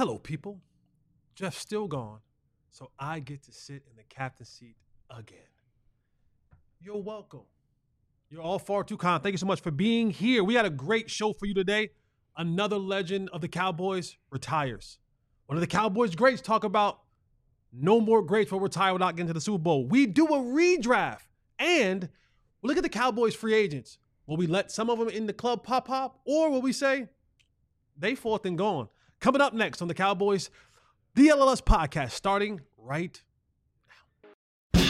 Hello, people. Jeff's still gone, so I get to sit in the captain's seat again. You're welcome. You're all far too kind. Thank you so much for being here. We had a great show for you today. Another legend of the Cowboys retires. One of the Cowboys greats talk about no more greats will retire without getting to the Super Bowl. We do a redraft, and we look at the Cowboys free agents. Will we let some of them in the club pop, or will we say they fourth and gone? Coming up next on the Cowboys DLLS podcast, starting right now.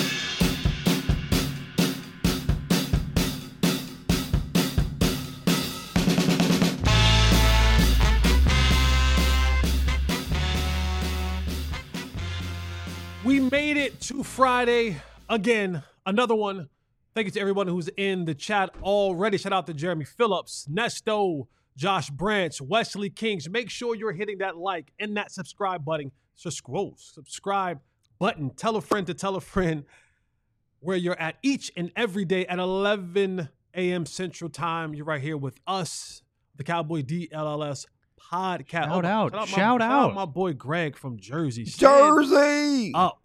We made it to Friday again, another one. Thank you to everyone who's in the chat already. Shout out to Jeremy Phillips, Nesto, Josh Branch, Wesley Kings. Make sure you're hitting that like and that subscribe button. Subscribe button. Tell a friend to tell a friend where you're at each and every day at 11 a.m. Central Time. You're right here with us, the Cowboy DLLS podcast. Shout out my boy Greg from Jersey. Jersey up.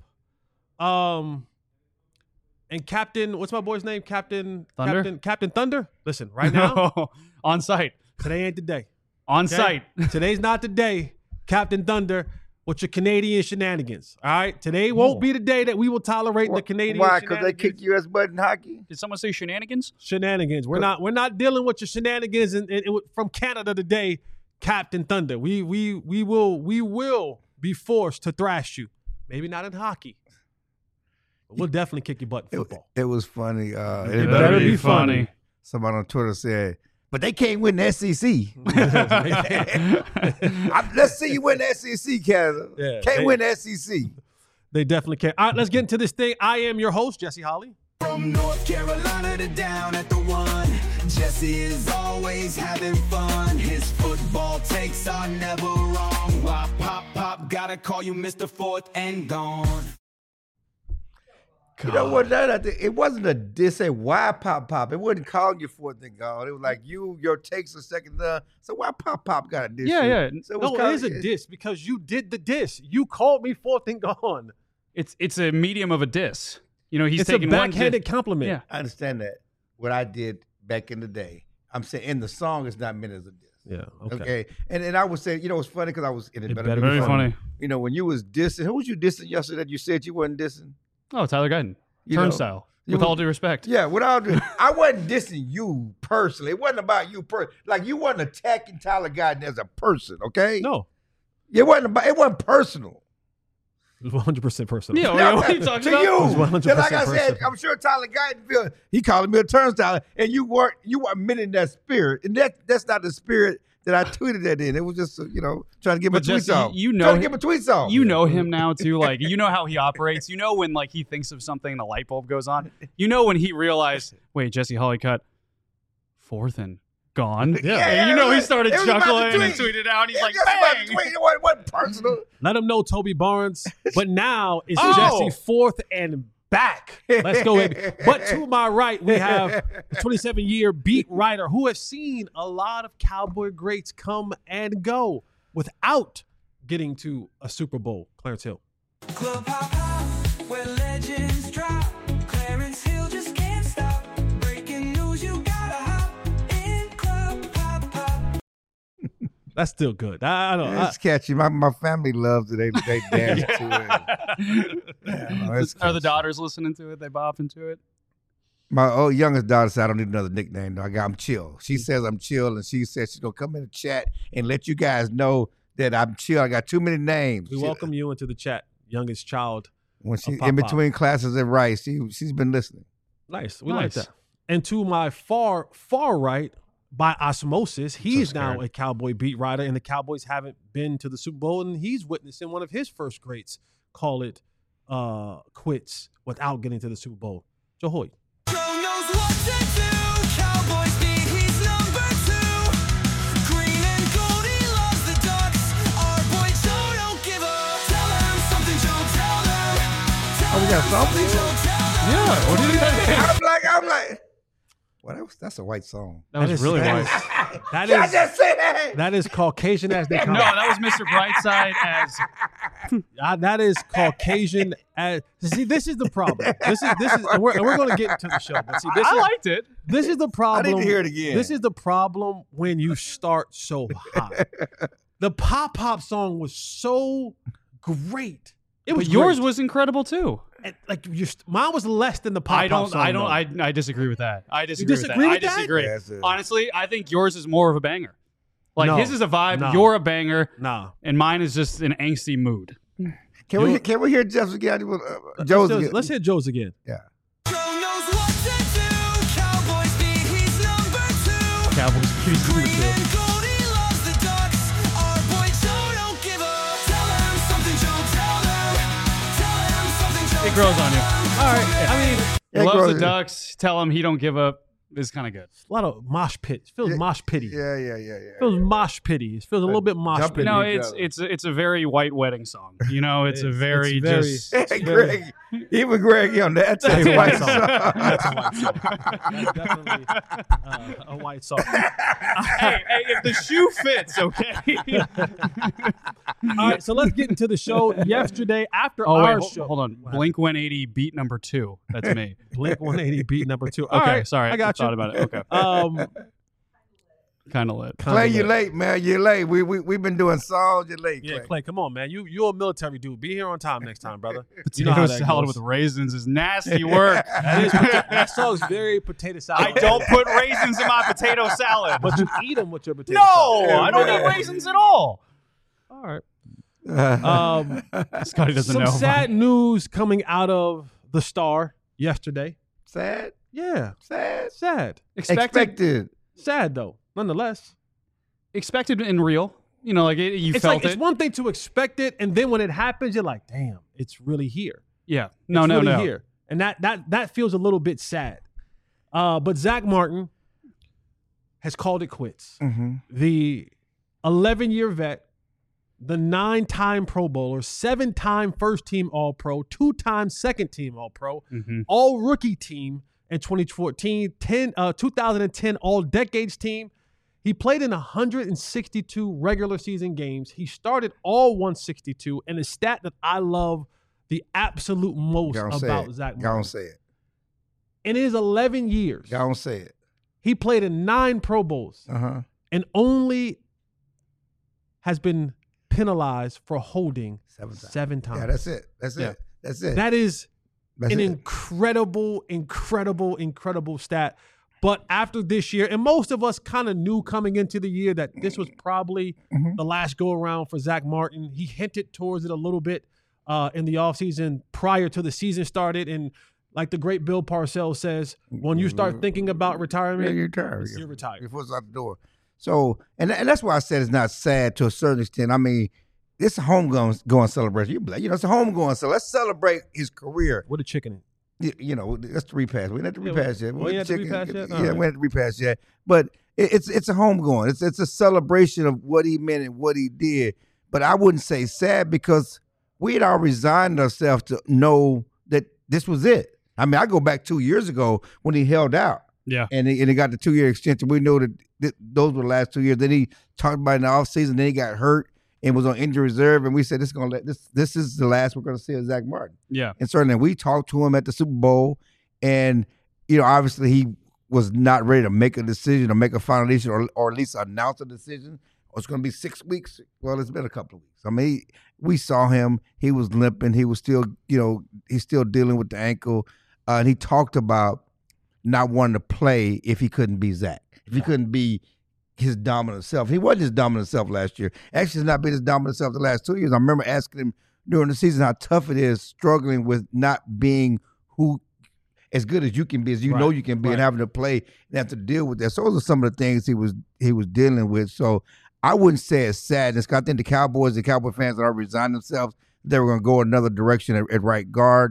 And Captain, what's my boy's name? Captain Thunder. Listen, right now, on site. Today ain't the day. On site. Today's not the day, Captain Thunder, with your Canadian shenanigans. All right? Today won't be the day that we will tolerate the Canadian shenanigans. Why? Because they kick U.S. butt in hockey? Did someone say shenanigans? Shenanigans. We're not dealing with your shenanigans and from Canada today, Captain Thunder. We will be forced to thrash you. Maybe not in hockey. But we'll definitely kick your butt in football. It was funny. It better be funny. Somebody on Twitter said, but they can't win the SEC. Let's see you win the SEC, Canada. Yeah, can't win the SEC. They definitely can. All right, let's get into this thing. I am your host, Jesse Holly. From North Carolina to down at the one, Jesse is always having fun. His football takes are never wrong. Why pop, gotta call you Mr. Fourth and Gone. You know what? It wasn't a diss. Say why pop. It wasn't calling you fourth and gone. It was like your takes a second down. So why pop got a diss? Yeah. So it is a diss because you did the diss. You called me fourth and gone. It's a medium of a diss. You know, he's it's taking a backhanded compliment. Yeah. I understand that. What I did back in the day, I'm saying in the song, it's not meant as a diss. Yeah. Okay. And I would say, you know, it's funny because I was in it. Better be Very funny. You know, when you was dissing, who was you dissing yesterday that you said you wasn't dissing? Oh, Tyler Guyton. Turnstile. With all due respect. Yeah, with all due I wasn't dissing you personally. It wasn't about you personally. Like, you wasn't attacking Tyler Guyton as a person, okay? No. It wasn't personal. It was 100% personal. Yeah, what are you talking about? To you. It was 100% Like I said, personal. I'm sure Tyler Guyton he calling me a turnstile, and you weren't admitting that spirit. And that's not the spirit that I tweeted that in. It was just, trying to get my tweets off. Trying to get my tweets off. You know him now, too. Like, you know how he operates. You know when, like, he thinks of something and the light bulb goes on. You know when he realized, wait, Jesse Holly cut fourth and gone. Yeah. And you know he started it was about chuckling to and tweet. tweeted out. He's like, It was about to bang! tweet. It wasn't personal. Let him know, Toby Barnes. But now it's Oh. Jesse fourth and back. Let's go, baby. But to my right, we have a 27-year beat writer who has seen a lot of Cowboy greats come and go without getting to a Super Bowl. Clarence Hill. Club hop, where legends drop. Clarence Hill just can't stop. Breaking news, you gotta hop in Club hop. That's still good. I don't know. It's catchy. My family loves it. They dance to it. It's Are the catchy. daughters listening to it? They bop into it? My youngest daughter said, I don't need another nickname. Though. I'm chill. She says I'm chill, and she says she's going to come in the chat and let you guys know that I'm chill. I got too many names. We welcome you into the chat, youngest child. When she Pop in Pop. between classes at Rice, she's been listening. Nice. We like Nice. that. And to my far right, by osmosis, he's now scared. a Cowboy beat writer, and the Cowboys haven't been to the Super Bowl, and he's witnessing one of his first greats call it quits without getting to the Super Bowl. Joe Hoyt. Joe knows what to do. Cowboys beat, he's number 2. Green and gold, he loves the Ducks. Our boy Joe don't give up. Tell them something, Joe, tell them. Oh, we got something? Joe, tell them. Yeah. What do you think? I'm like, well, That's a white song. That was really white. That is. I just say that. That is Caucasian as they come. No, that was Mr. Brightside as. That is Caucasian as. See, this is the problem. This is, and we're going to get into the show. But see, I liked it. This is the problem. I need to hear it again. This is the problem when you start so high. The Pop song was so great. But yours was incredible too. And, like mine was less than the Pop song. I disagree with that. I disagree with that. I disagree. Honestly, I think yours is more of a banger. Like his is a vibe. No. You're a banger. No. And mine is just an angsty mood. Can we hear Jeff's again? Joe's again. Let's hear Joe's again. Yeah. Cowboys beat number 2. It grows on you. All right. Yeah. I mean, he loves the Ducks. Tell him he don't give up. It's kind of good. A lot of mosh pit. It feels mosh pity. Yeah. It feels mosh pity. It feels a little bit mosh pity. No, it's a very white wedding song. You know, it's a very just. Hey, Greg, even Greg on that. That's a white song. That's a white song. That's definitely a white song. hey, if the shoe fits, okay. All right, so let's get into the show. Yesterday, after our show, hold on. Blink 180 beat number 2. That's me. Blink 180 beat number 2. Okay, all right, sorry. I got you. Thought about it. Okay. Kind of lit. Clay, you're late, man. You're late. We've been doing songs. You're late, Clay. Yeah, Clay, come on, man. You're a military dude. Be here on time next time, brother. Potato salad with raisins is nasty work. That song's very potato salad. I don't put raisins in my potato salad. But you eat them with your potato salad. No, I don't eat raisins at all. All right. Scotty doesn't know. Some sad news coming out of the Star yesterday. Sad? Yeah. Sad. Expected. Sad, though, nonetheless. Expected and real. You know, like you felt it. It's one thing to expect it, and then when it happens, you're like, damn, it's really here. Yeah. No. Here. And that feels a little bit sad. But Zach Martin has called it quits. Mm-hmm. The 11-year vet, the 9-time Pro Bowler, 7-time first-team All-Pro, 2-time second-team All-Pro, All-Rookie team in 2014, 2010 All-Decades team. He played in 162 regular season games. He started all 162, and the stat that I love the absolute most about Zach Martin. Don't say it. In his 11 years, don't say it. He played in 9 Pro Bowls and only has been penalized for holding 7 times. Yeah, that's it. That's it. That is an incredible stat. But after this year, and most of us kind of knew coming into the year that this was probably the last go-around for Zach Martin. He hinted towards it a little bit in the offseason prior to the season started. And like the great Bill Parcells says, when you start thinking about retirement, you're retired. Your foot's out the door. So, and that's why I said it's not sad to a certain extent. I mean, it's a homegoing celebration. You know, it's a homegoing celebration. Let's celebrate his career. With a chicken in. You know, that's the repass. We didn't have to repass yet. We didn't have to repass yet? Yeah, we didn't have to repass yet. But it's a homegoing. It's a celebration of what he meant and what he did. But I wouldn't say sad because we had all resigned ourselves to know that this was it. I mean, I go back 2 years ago when he held out. Yeah. And he got the 2-year extension. We know that those were the last 2 years. Then he talked about it in the offseason. Then he got hurt and was on injury reserve. And we said, this is the last we're going to see of Zach Martin. Yeah. And certainly we talked to him at the Super Bowl. And, you know, obviously he was not ready to make a decision or make a final decision or at least announce a decision. It's going to be 6 weeks. Well, it's been a couple of weeks. I mean, we saw him. He was limping. He was still, you know, he's still dealing with the ankle. And he talked about not wanting to play if he couldn't be Zach, if he couldn't be his dominant self. He wasn't his dominant self last year. Actually, he's not been his dominant self the last 2 years. I remember asking him during the season how tough it is struggling with not being who as good as you can be, as you know you can be, and having to play and have to deal with that. So those are some of the things he was dealing with. So I wouldn't say it's sadness. I think the Cowboys, the Cowboy fans that are resigning themselves, they were going to go another direction at right guard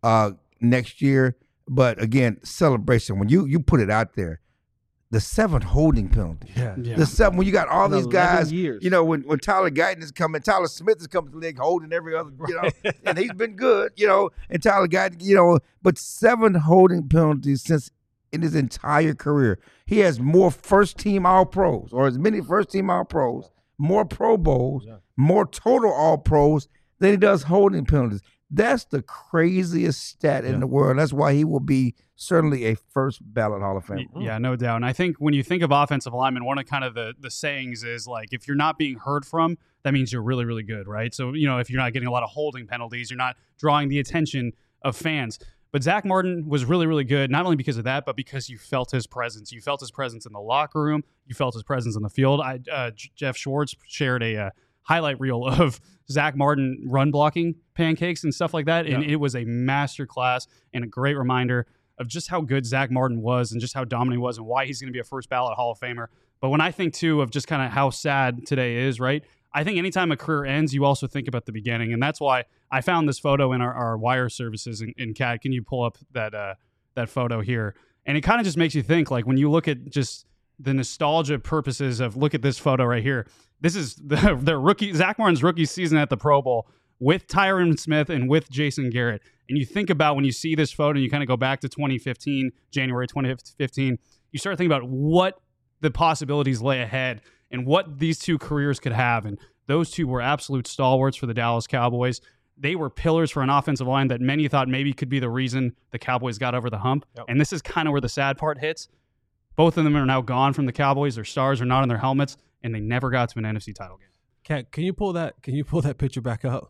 next year. But again, celebration. When you put it out there, the 7 holding penalties. Yeah. The 7 when you got all these guys. Years. You know, when Tyler Guyton is coming, Tyler Smith is coming to the league holding every other. You know, and he's been good. You know, and Tyler Guyton. You know, but 7 holding penalties since in his entire career. He has more first-team All-Pros, or as many first-team All-Pros, more Pro Bowls, more total All-Pros than he does holding penalties. That's the craziest stat in the world. That's why he will be certainly a first ballot Hall of Famer. Yeah, no doubt. And I think when you think of offensive linemen, one of kind of the sayings is like, if you're not being heard from, that means you're really, really good, right? So, if you're not getting a lot of holding penalties, you're not drawing the attention of fans. But Zach Martin was really, really good, not only because of that, but because you felt his presence. You felt his presence in the locker room. You felt his presence in the field. Jeff Schwartz shared a highlight reel of Zach Martin run blocking pancakes and stuff like that. And it was a master class and a great reminder of just how good Zach Martin was and just how dominant he was and why he's going to be a first ballot Hall of Famer. But when I think, too, of just kind of how sad today is, right? I think anytime a career ends, you also think about the beginning. And that's why I found this photo in our wire services. In Kat, can you pull up that photo here? And it kind of just makes you think, like, when you look at just the nostalgia purposes of, look at this photo right here. This is the rookie, Zach Martin's rookie season at the Pro Bowl with Tyron Smith and with Jason Garrett. And you think about when you see this photo and you kind of go back to 2015, January 2015, you start thinking about what the possibilities lay ahead and what these two careers could have. And those two were absolute stalwarts for the Dallas Cowboys. They were pillars for an offensive line that many thought maybe could be the reason the Cowboys got over the hump. Yep. And this is kind of where the sad part hits. Both of them are now gone from the Cowboys. Their stars are not on their helmets, and they never got to an NFC title game. Kat, can you pull that picture back up?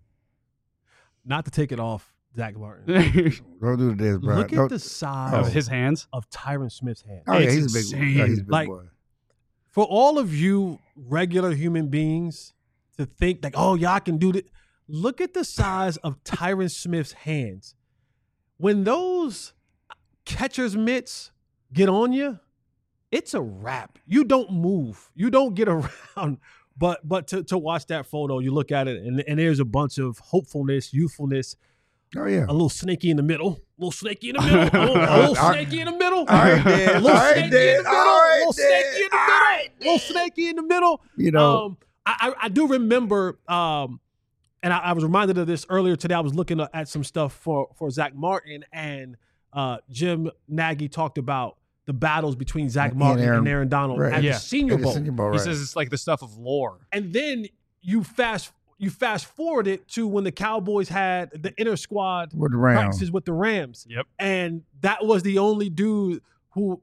Not to take it off Zach Martin. Don't do this, bro. Look at the size of his hands, of Tyron Smith's hands. Oh, yeah, he's a big boy. Yeah, he's a big boy. For all of you regular human beings to think like, oh, y'all can do this. Look at the size of Tyron Smith's hands. When those catcher's mitts get on you, it's a wrap. You don't move. You don't get around. But to watch that photo, you look at it, and there's a bunch of hopefulness, youthfulness. Oh, yeah. A little snaky in the middle. A little snaky in the middle. A little snaky in the middle. All right, Dad. A little snaky in the middle. A little snaky in the middle. A little snaky in the middle. You know. I do remember, and I was reminded of this earlier today. I was looking at some stuff for Zach Martin, and Jim Nagy talked about the battles between Zach Martin and Aaron Donald at the Senior Bowl. He says it's like the stuff of lore. And then you fast forward it to when the Cowboys had the inter squad practices with the Rams. Yep. And that was the only dude who,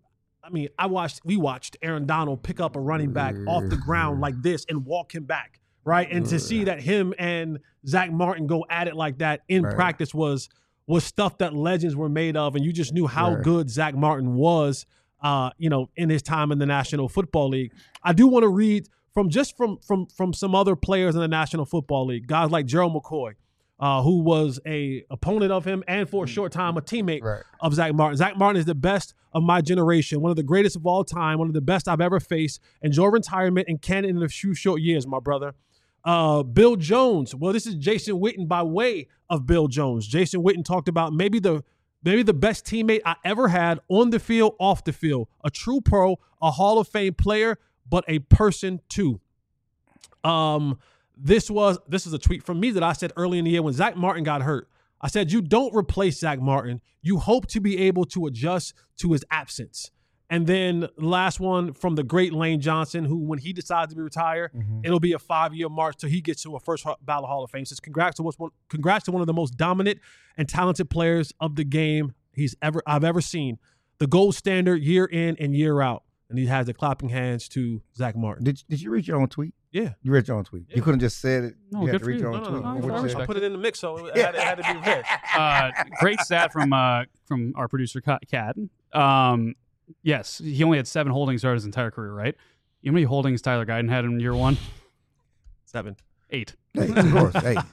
we watched Aaron Donald pick up a running back off the ground like this and walk him back, right? And to see that him and Zach Martin go at it like that in practice was stuff that legends were made of, and you just knew how good Zach Martin was, in his time in the National Football League. I do want to read from some other players in the National Football League, guys like Gerald McCoy, who was a opponent of him and for a short time a teammate of Zach Martin. Zach Martin is the best of my generation, one of the greatest of all time, one of the best I've ever faced. Enjoy retirement and Canada in a few short years, my brother. Bill Jones. Well, this is Jason Witten by way of Bill Jones. Jason Witten talked about maybe the best teammate I ever had on the field, off the field. A true pro, a Hall of Fame player, but a person too. This is a tweet from me that I said early in the year when Zach Martin got hurt. I said, you don't replace Zach Martin. You hope to be able to adjust to his absence. And then the last one from the great Lane Johnson, who when he decides to be retired, it'll be a 5-year march till he gets to a first ballot Hall of Fame. Says congrats to one of the most dominant and talented players of the game I've ever seen. The gold standard year in and year out. And he has the clapping hands to Zach Martin. Did you read your own tweet? Yeah. You read your own tweet. Yeah. You couldn't just said it. No, you good had to for read you. your own tweet. I put it in the mix, so it had to be read. Great stat from our producer, Kat. Yes, he only had 7 holdings throughout his entire career, right? You know how many holdings Tyler Guyton had in year 1? 7. 8. 8, of course.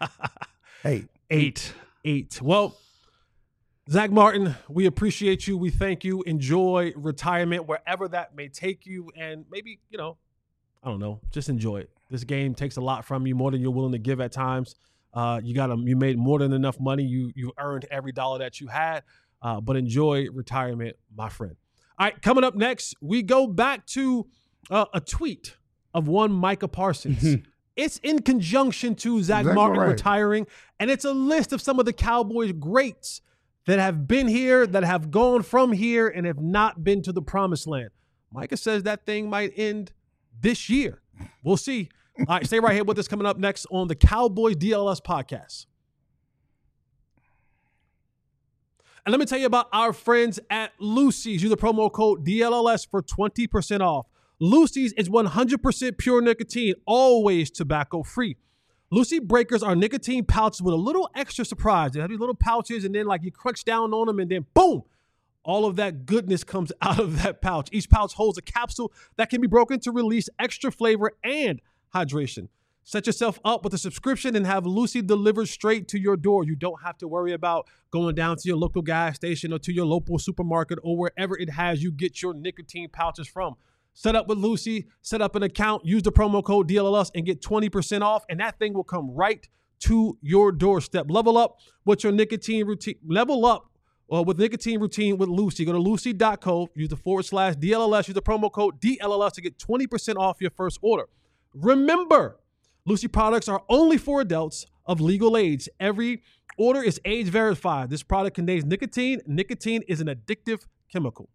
8. Well, Zach Martin, we appreciate you. We thank you. Enjoy retirement wherever that may take you. And maybe, I don't know, just enjoy it. This game takes a lot from you, more than you're willing to give at times. You made more than enough money. You earned every dollar that you had. But enjoy retirement, my friend. All right, coming up next, we go back to a tweet of one Micah Parsons. It's in conjunction to Zach Martin retiring, and it's a list of some of the Cowboys greats that have been here, that have gone from here, and have not been to the promised land. Micah says that thing might end this year. We'll see. All right, stay right here with us. Coming up next on the Cowboys DLS podcast. And let me tell you about our friends at Lucy's. Use the promo code DLLS for 20% off. Lucy's is 100% pure nicotine, always tobacco-free. Lucy Breakers are nicotine pouches with a little extra surprise. They have these little pouches, and then like you crunch down on them, and then boom, all of that goodness comes out of that pouch. Each pouch holds a capsule that can be broken to release extra flavor and hydration. Set yourself up with a subscription and have Lucy delivered straight to your door. You don't have to worry about going down to your local gas station or to your local supermarket or wherever it has you get your nicotine pouches from. Set up with Lucy, set up an account, use the promo code DLLS and get 20% off, and that thing will come right to your doorstep. Level up with your nicotine routine. Level up with nicotine routine with Lucy. Go to lucy.co, use the /DLLS, use the promo code DLLS to get 20% off your first order. Remember, Lucy products are only for adults of legal age. Every order is age verified. This product contains nicotine. Nicotine is an addictive chemical.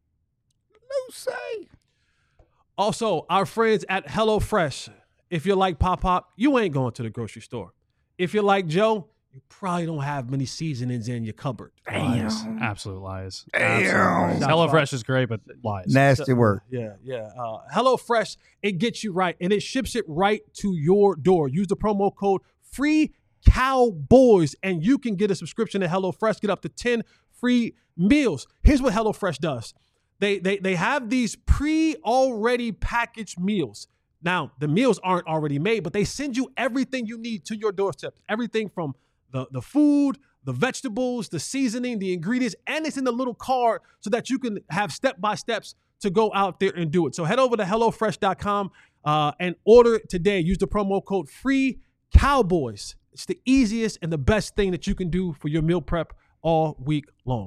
Lucy. Also, our friends at HelloFresh. If you're like Pop, you ain't going to the grocery store. If you're like Joe, you probably don't have many seasonings in your cupboard. Lies. Absolute lies. Damn. HelloFresh is great, but lies. Nasty work. Yeah. HelloFresh, it gets you right, and it ships it right to your door. Use the promo code FREECOWBOYS, and you can get a subscription to HelloFresh. Get up to 10 free meals. Here's what HelloFresh does. They have these already packaged meals. Now, the meals aren't already made, but they send you everything you need to your doorstep. Everything from the food, the vegetables, the seasoning, the ingredients, and it's in the little card so that you can have step-by-steps to go out there and do it. So head over to HelloFresh.com and order it today. Use the promo code FREECOWBOYS. It's the easiest and the best thing that you can do for your meal prep all week long.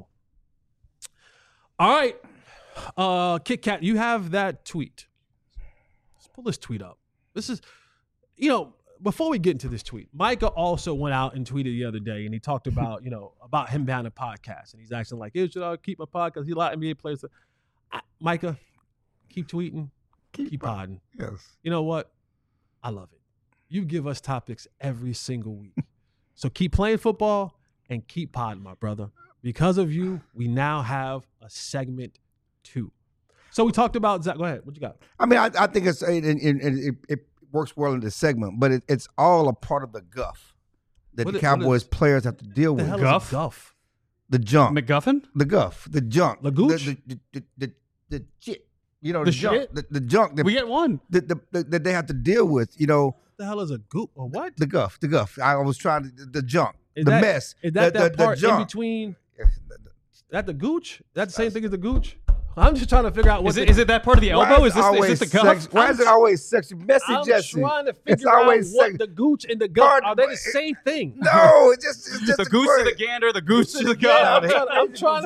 All right. Kit Kat, you have that tweet. Let's pull this tweet up. This is, before we get into this tweet, Micah also went out and tweeted the other day, and he talked about, about him having a podcast, and he's asking like, hey, should I keep my podcast? He a lot of NBA players. Micah, keep tweeting, keep podding. Yes. You know what? I love it. You give us topics every single week. So keep playing football and keep podding, my brother. Because of you, we now have a segment 2. So we talked about Zach. Go ahead. What you got? I mean, I think it works well in this segment, but it's all a part of the guff that the Cowboys players have to deal with. The hell is a guff? The junk. McGuffin? The guff. The junk. The gooch? The shit. The junk. shit? The junk. We get one. That they have to deal with, What the hell is a gooch? Or what? The guff. The guff. I was trying to, the junk. Is mess. Is that the part junk. in between? That the gooch? That's the same thing as the gooch? I'm just trying to figure out what is it that part of the elbow? Is this the cuff? Why is it always sexy? Messy, I'm Jesse. trying to It's figure out always what the gooch and the gut are. They the same thing? No, it's just The a goose word. to the gander, the goose to the Yeah, gut. I'm trying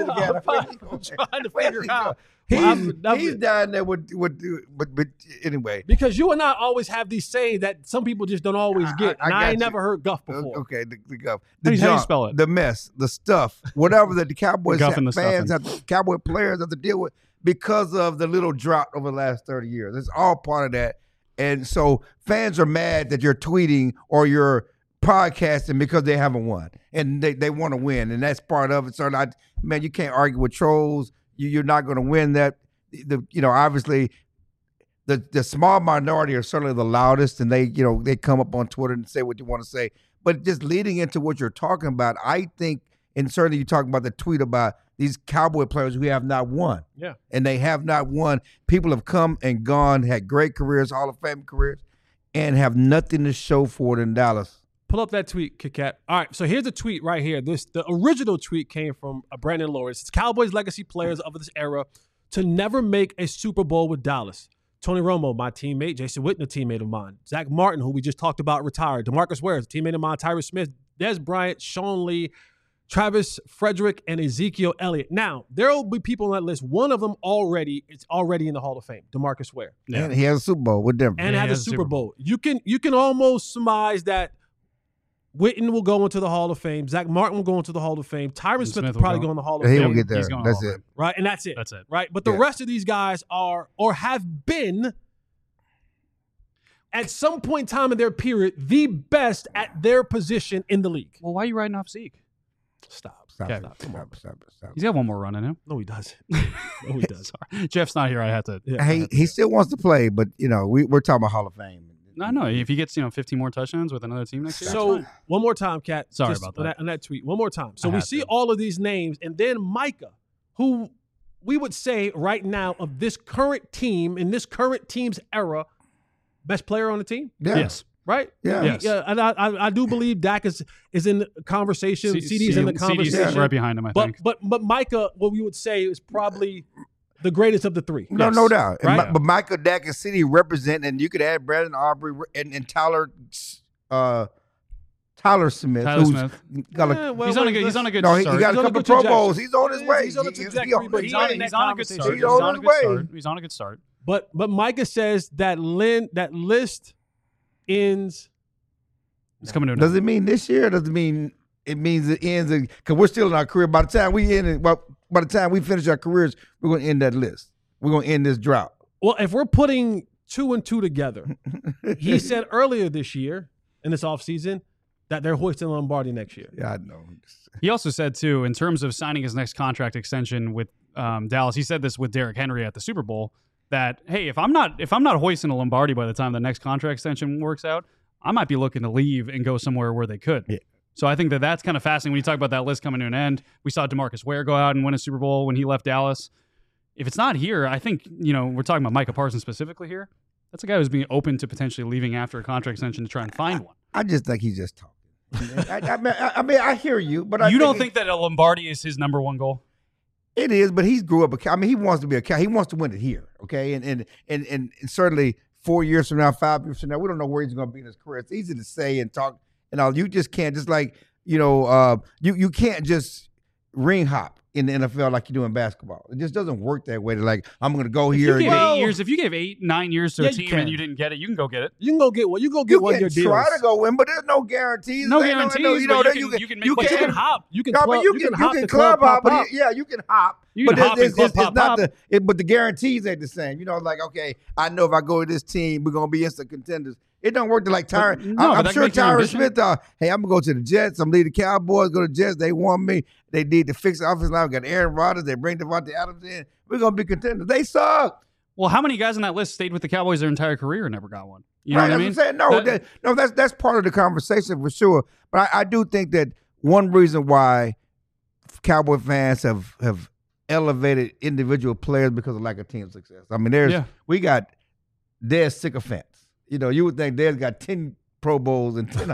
to figure out. He's down there with but anyway. Because you and I always have these sayings that some people just don't always get. And I ain't never heard guff before. Okay, the guff. How do you junk, spell it? The mess, the stuff, whatever that the Cowboys Guff and the fans stuffing. have, Cowboy players have to deal with because of the little drought over the last 30 years. It's all part of that. And so fans are mad that you're tweeting or you're podcasting because they haven't won. And they want to win. And that's part of it. So, you can't argue with trolls. You're not going to win that. Obviously, the small minority are certainly the loudest, and they come up on Twitter and say what you want to say. But just leading into what you're talking about, I think, and certainly you talk about the tweet about these Cowboy players who have not won. Yeah. And they have not won. People have come and gone, had great careers, Hall of Fame careers, and have nothing to show for it in Dallas. Pull up that tweet, Kit Kat. All right, so here's a tweet right here. The original tweet came from Brandon Lawrence. It's Cowboys legacy players of this era to never make a Super Bowl with Dallas. Tony Romo, my teammate. Jason Witten, a teammate of mine. Zach Martin, who we just talked about, retired. DeMarcus Ware, a teammate of mine. Tyrus Smith, Des Bryant, Sean Lee, Travis Frederick, and Ezekiel Elliott. Now, there will be people on that list. One of them is already in the Hall of Fame, DeMarcus Ware. Yeah. And he has a Super Bowl with Denver. And has a Super Bowl. You can almost surmise that Witten will go into the Hall of Fame. Zach Martin will go into the Hall of Fame. Tyron Smith will will probably go. go in the Hall of He Fame. will get there. He's going That's Hall of it. Fame. Right, and that's it. That's it. Right, but the Yeah. rest of these guys are or have been at some point in time in their period the best at their position in the league. Well, why are you writing off Zeke? Stop. Stop, Okay. stop. He's got one more run in him. No, he doesn't. No, he doesn't. Sorry. Jeff's not here. I had to. Yeah. He still wants to play, but we're talking about Hall of Fame. No, no. If he gets 15 more touchdowns with another team next year, So that's fine. one more time, Kat. Sorry just about on that. on that tweet. One more time. So I we had see to. all of these names, and then Micah, who we would say right now of this current team in this current team's era, best player on the team, Yeah. Yes. right? Yeah. Yes. Yeah, and I do believe Dak is in the conversation. CD's in the CD's conversation. right behind him, I think. But Micah, what we would say is probably the greatest of the three. No, no doubt. And Right? but Michael, Dak, and City represent, and you could add Brandon Aubrey and Tyler Smith, Tyler who's Smith. got a, Yeah, well, He's on a let's- good no, he start. got He's a on a couple good Pro trajectory. Bowls. He's on his way. He's on a He- trajectory, but He's he's on in a that good conversation. start. He's on his way. He's on a good start. But Micah says that that list ends. It's coming to an Does end. it mean this year? Or does it mean it means it ends? Because we're still in our career. By the time we end it, well, by the time we finish our careers, we're going to end that list. We're going to end this drought. Well, if we're putting 2 and 2 together, he said earlier this year in this offseason that they're hoisting Lombardi next year. Yeah, I know. He also said, too, in terms of signing his next contract extension with Dallas, he said this with Derrick Henry at the Super Bowl, that, hey, if I'm not hoisting a Lombardi by the time the next contract extension works out, I might be looking to leave and go somewhere where they could. Yeah. So I think that's kind of fascinating when you talk about that list coming to an end. We saw DeMarcus Ware go out and win a Super Bowl when he left Dallas. If it's not here, I think, we're talking about Micah Parsons specifically here. That's a guy who's being open to potentially leaving after a contract extension to try and find one. I just think he's just talking. I mean, I hear you, but You don't think that a Lombardi is his number one goal? it is? But he's grew up. I mean, he wants to be he wants to win it here. Okay, and certainly 4 years from now, 5 years from now, we don't know where he's going to be in his career. It's easy to say and talk and all. You just can't just you can't just ring hop in the NFL like you do in basketball. It just doesn't work that way. Like, I'm going to go here. If you and gave 8 years, if you gave 8-9 years to Yeah, a you team can. and you didn't get it, you can go get it. You can go get one. You go get you one can year deals. try to go win, but there's no guarantees. No There ain't guarantees, no, but you you can make you money. But you can can hop. You can No, club. but you can hop you the can club hop, pop. but you can hop. You can but hop and club, pop, not pop. but the guarantees ain't the same. Like, okay, I know if I go to this team, we're gonna be instant contenders. It don't work to like Tyron. no, but I'm that sure makes your Tyron ambition. Smith. Hey, I'm gonna go to the Jets. I'm leading the Cowboys. Go to the Jets. They want me. They need to fix the offensive line. We got Aaron Rodgers. They bring Devontae Adams in. We're gonna be contenders. They suck. Well, how many guys on that list stayed with the Cowboys their entire career and never got one? You know Right, what I that's mean? what I'm saying. No, that's part of the conversation for sure. But I do think that one reason why Cowboy fans have elevated individual players because of lack of team success. I mean, we got Dez sycophants. You would think Dez got 10 Pro Bowls and 10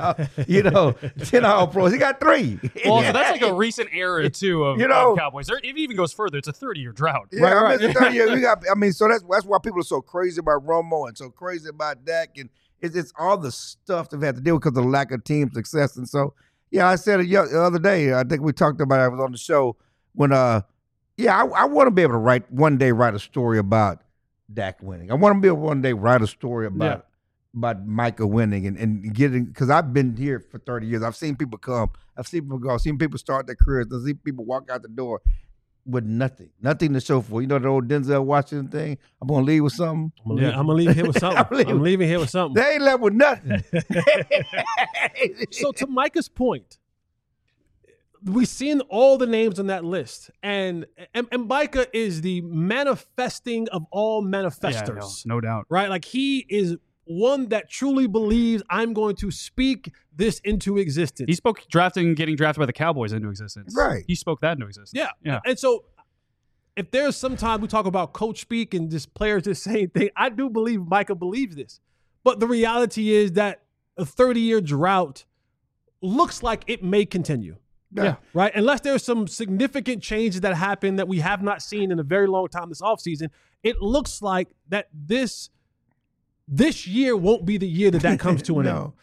All Pros. He got 3. Well, so that's like a recent era too of Cowboys. It even goes further. It's a 30-year drought. Yeah, Right. I mean, 30 years, so that's why people are so crazy about Romo and so crazy about Dak, and it's all the stuff they've had to deal with because of the lack of team success. And so, yeah, I said it the other day. I think we talked about it. I was on the show when, I want to be able to one day write a story about Dak winning. I want to be able to one day write a story about Micah winning and getting, because I've been here for 30 years. I've seen people come. I've seen people go. I've seen people start their careers. I've seen people walk out the door with nothing to show for. You know the old Denzel Washington thing? I'm going to leave with something. I'm gonna leave here with something. I'm leaving here with something. They ain't left with nothing. So to Micah's point, we've seen all the names on that list, and Micah is the manifesting of all manifestors, no doubt. right? Like, he is one that truly believes I'm going to speak this into existence. He spoke getting drafted by the Cowboys into existence. Right. He spoke that into existence. Yeah. And so if there's some time we talk about coach speak and just players just saying things, I do believe Micah believes this. But the reality is that a 30-year drought looks like it may continue. Yeah. Right? Unless there's some significant changes that happen that we have not seen in a very long time this offseason, it looks like that this year won't be the year that comes to an end.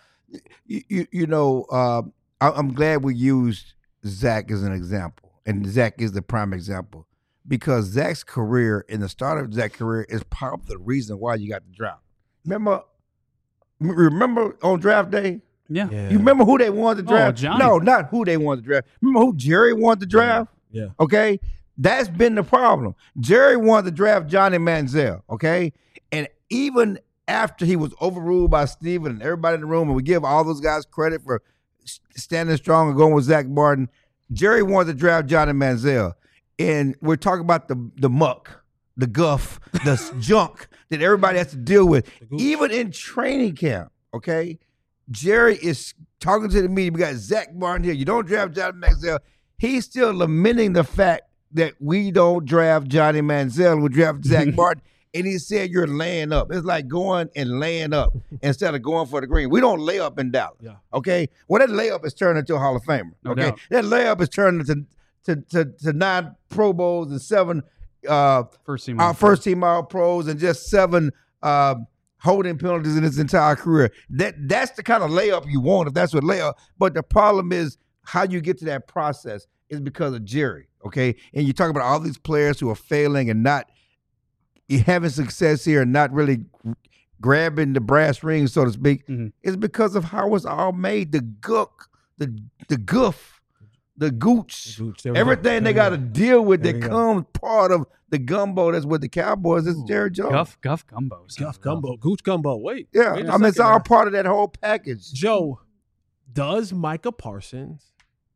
I'm glad we used Zach as an example, and Zach is the prime example, because Zach's career and the start of Zach's career is part of the reason why you got the drought. Remember on draft day? Yeah. You remember who they wanted to draft? Johnny. No, not who they wanted to draft. Remember who Jerry wanted to draft? Yeah. Okay? That's been the problem. Jerry wanted to draft Johnny Manziel, okay? And even after he was overruled by Steven and everybody in the room, and we give all those guys credit for standing strong and going with Zach Martin, Jerry wanted to draft Johnny Manziel. And we're talking about the muck, the guff, the junk that everybody has to deal with. Even in training camp, okay? Jerry is talking to the media. We got Zach Martin here. You don't draft Johnny Manziel. He's still lamenting the fact that we don't draft Johnny Manziel. We draft Zach Martin. And he said you're laying up. It's like going and laying up instead of going for the green. We don't lay up in Dallas. Yeah. Okay? Well, that layup is turned into a Hall of Famer. No Okay? doubt. That layup is turned into 9 Pro Bowls and 7 First team. first team All Pros and just 7 holding penalties in his entire career. That's the kind of layup you want if that's what layup. But the problem is how you get to that process is because of Jerry. Okay? And you talk about all these players who are failing and not having success here and not really grabbing the brass ring, so to speak, is because of how it's all made. The gook, the goof, the gooch, everything they got to deal with that comes part of the gumbo that's with the Cowboys is Jerry Jones. Guff gumbo. Guff gumbo. Gooch gumbo. Wait. Yeah, wait a I mean, it's second all now. part of that whole package. Joe, does Micah Parsons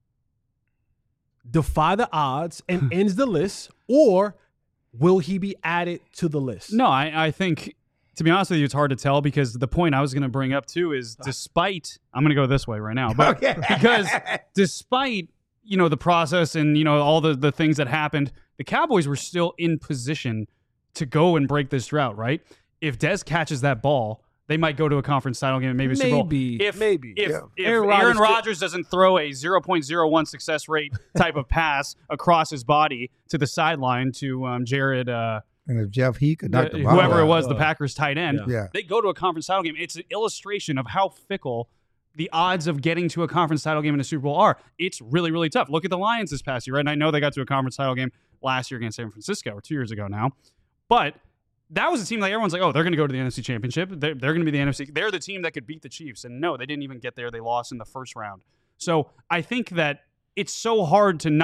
defy the odds and ends the list, or will he be added to the list? No, I think, to be honest with you, it's hard to tell because the point I was going to bring up too is despite, I'm going to go this way right now, but because despite, the process and, all the things that happened, the Cowboys were still in position to go and break this drought, right? If Dez catches that ball, they might go to a conference title game and maybe a Super Bowl. Maybe. If Aaron Rodgers doesn't throw a 0.01 success rate type of pass across his body to the sideline to Jared, And if Jeff Heath could knock the ball whoever out. it was, the Packers tight end, Yeah. they go to a conference title game. It's an illustration of how fickle the odds of getting to a conference title game in a Super Bowl are. It's really, really tough. Look at the Lions this past year, right? And I know they got to a conference title game last year against San Francisco, or 2 years ago now. But that was a team like everyone's like, oh, they're going to go to the NFC Championship. They're going to be the NFC. They're the team that could beat the Chiefs. And no, they didn't even get there. They lost in the first round. So I think that it's so hard to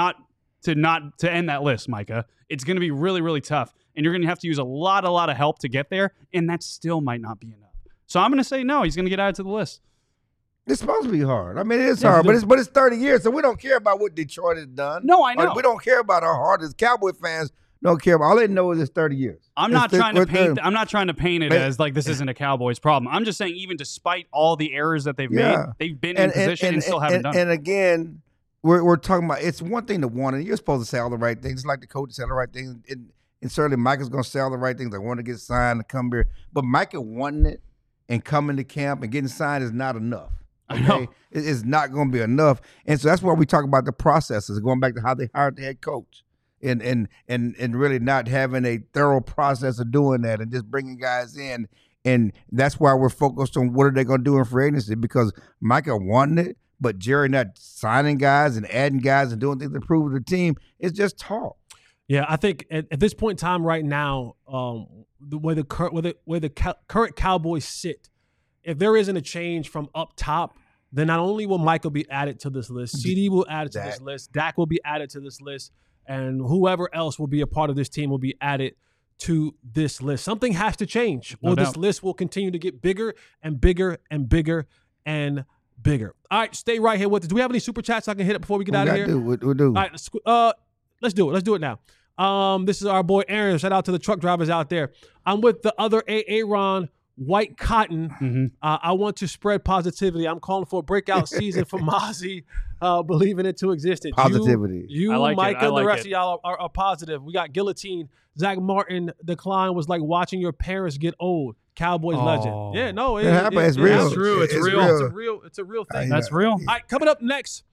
end that list, Micah. It's going to be really, really tough. And you're going to have to use a lot of help to get there. And that still might not be enough. So I'm going to say no, he's going to get added to the list. It's supposed to be hard. I mean, it is hard, but it's 30 years, so we don't care about what Detroit has done. No, I know. We don't care about how hard as Cowboy fans don't care about. All they know is it's 30 years. I'm not trying to paint it as like this isn't a Cowboys problem. I'm just saying even despite all the errors that they've made, they've been in position and still haven't done it. And again, we're talking about it's one thing to want, and you're supposed to say all the right things. It's like the coach say all the right things, and certainly Micah's going to say all the right things. I want to get signed to come here, but Micah wanting it and coming to camp and getting signed is not enough. Okay? I know. It's not going to be enough, and so that's why we talk about the processes, going back to how they hired the head coach. And really not having a thorough process of doing that and just bringing guys in. And that's why we're focused on what are they going to do in free agency, because Micah wanted it, but Jerry not signing guys and adding guys and doing things to prove to the team. It's just talk. Yeah, I think at this point in time right now, where the current Cowboys sit, if there isn't a change from up top, then not only will Michael be added to this list, CD will add it to this list, Dak will be added to this list, and whoever else will be a part of this team will be added to this list. Something has to change, or this list will continue to get bigger and bigger and bigger and bigger. All right, stay right here with us. Do we have any super chats I can hit up before we get out of here? We'll do. All right, let's do it. Let's do it now. This is our boy Aaron. Shout out to the truck drivers out there. I'm with the other Aaron White Cotton. Mm-hmm. I want to spread positivity. I'm calling for a breakout season for Mozzie, believing it to existence. Positivity. You I like Micah, it. I and the like rest it. of y'all are positive. We got Guillotine. Zach Martin decline was like watching your parents get old. Cowboys legend. Yeah, no, It happened. It's real. It's true. It's real. It's a real thing. That's real. All right, coming up next,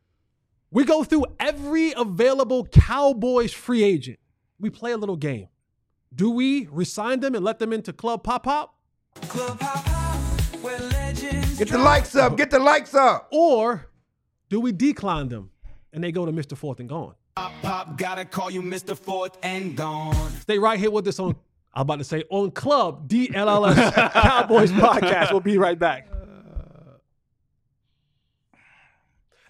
we go through every available Cowboys free agent. We play a little game. Do we resign them and let them into Club Pop Pop? Club Pop Pop, where legends Get the likes up. Get the likes up. Or do we decline them and they go to Mr. Fourth and Gone? Pop Pop, gotta call you Mr. Fourth and Gone. Stay right here with us on, I'm about to say, on Club DLLS Cowboys Podcast. We'll be right back.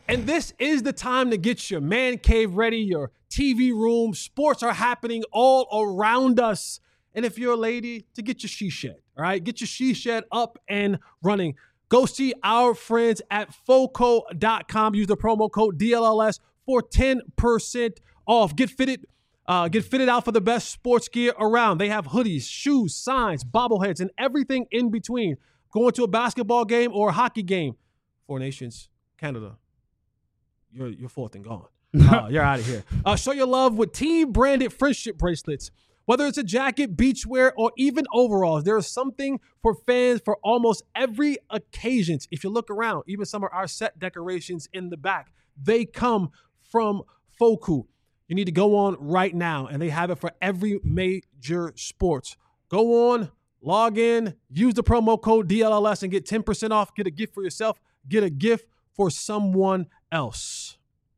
And this is the time to get your man cave ready, your TV room. Sports are happening all around us. And if you're a lady, to get your she shed, all right? Get your she shed up and running. Go see our friends at Foco.com. Use the promo code DLLS for 10% off. Get fitted out for the best sports gear around. They have hoodies, shoes, signs, bobbleheads, and everything in between. Going to a basketball game or a hockey game. Four Nations, Canada. You're fourth and gone. You're out of here. Show your love with team-branded friendship bracelets. Whether it's a jacket, beachwear, or even overalls, there is something for fans for almost every occasion. If you look around, even some of our set decorations in the back, they come from Foco. You need to go on right now, and they have it for every major sports. Go on, log in, use the promo code DLLS, and get 10% off. Get a gift for yourself. Get a gift for someone else.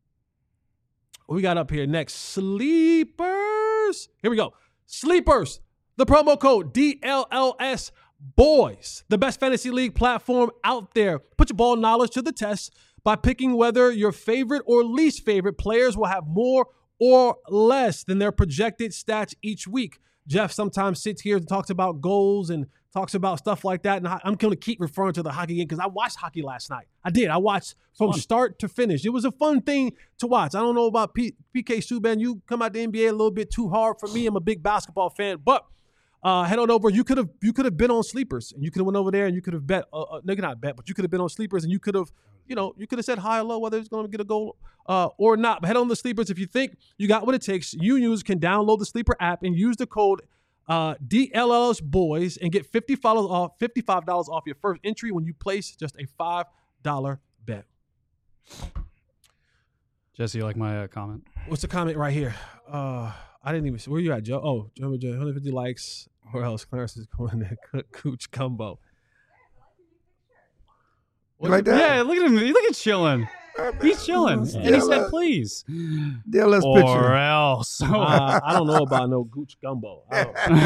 What we got up here next? Sleepers. Here we go. Sleepers. The promo code DLLS Boys. The best fantasy league platform out there. Put your ball knowledge to the test by picking whether your favorite or least favorite players will have more or less than their projected stats each week. Jeff sometimes sits here and talks about goals and talks about stuff like that. And I'm going to keep referring to the hockey game because I watched hockey last night. I did. I watched from start to finish. It was a fun thing to watch. I don't know about PK Subban. You come out the NBA a little bit too hard for me. I'm a big basketball fan. But head on over. You could have been on Sleepers. And you could have went over there and you could have bet. Not bet, but you could have been on Sleepers and you could have, said high or low whether it's going to get a goal or not. But head on the Sleepers. If you think you got what it takes, you users can download the Sleeper app and use the code DLLS Boys and get $55 off your first entry when you place just a $5 bet. Jesse, you like my comment? What's the comment right here? I didn't even see. Where you at, Joe? Oh, Joe, 150 likes. Where else? Clarence is going to cook Cooch Gumbo. You like that? Yeah, look at him. Look at chilling. He's chilling. And he said, please. DLS or picture. else. I don't know about no Gooch Gumbo. I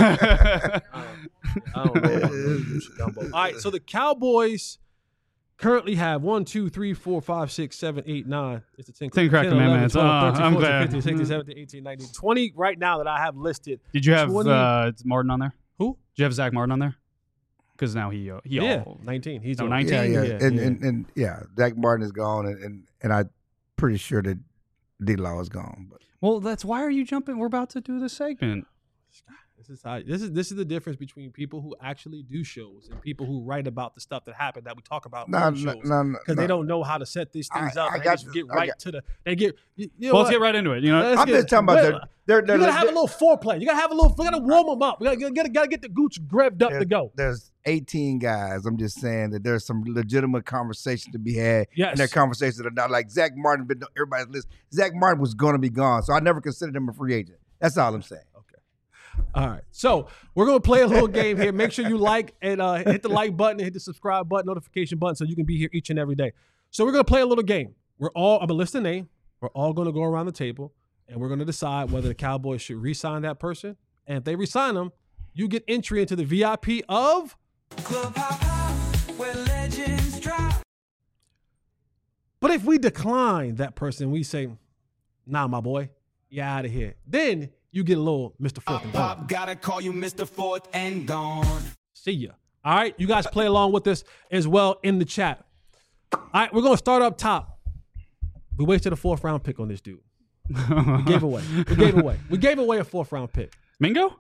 don't know about no Gooch Gumbo. All right, so the Cowboys currently have 1, 2, 3, 4, 5, 6, 7, 8, 9. It's a 10 correct 11, amendments. 12, 13, I'm 14, glad. 15, 16, 17, 18, 19, 20 right now that I have listed. Did you have 20 Martin on there? Who? Did you have Zach Martin on there? Because now he 19. He's 19. Yeah. Zach Martin is gone, and I'm pretty sure that D-Law is gone. But Well, that's why are you jumping? We're about to do the segment. This is the difference between people who actually do shows and people who write about the stuff that happened that we talk about on shows. Because they don't know how to set these things up. They just get right to the. They get. Let's get right into it. I'm just talking about you gotta have a little foreplay. You gotta have a little. We gotta warm them up. We gotta get the Gooch revved up to go. There's 18 guys. I'm just saying that there's some legitimate conversation to be had. Yes. And their conversations are not like Zach Martin been on everybody's list. Zach Martin was going to be gone, so I never considered him a free agent. That's all I'm saying. All right, so we're gonna play a little game here. Make sure you like and hit the like button, and hit the subscribe button, notification button, so you can be here each and every day. So we're gonna play a little game. I'm gonna list a name. We're all gonna go around the table, and we're gonna decide whether the Cowboys should re-sign that person. And if they re-sign them, you get entry into the VIP of Club Hop Hop, where legends drop. But if we decline that person, we say, "Nah, my boy, you're out of here." Then you get a little Mr. Fourth and Gone. Pop, gotta call you Mr. Fourth and Gone. See ya. All right, you guys play along with us as well in the chat. All right, we're gonna start up top. We wasted a 4th round pick on this dude. We gave away a 4th round pick. Mingo?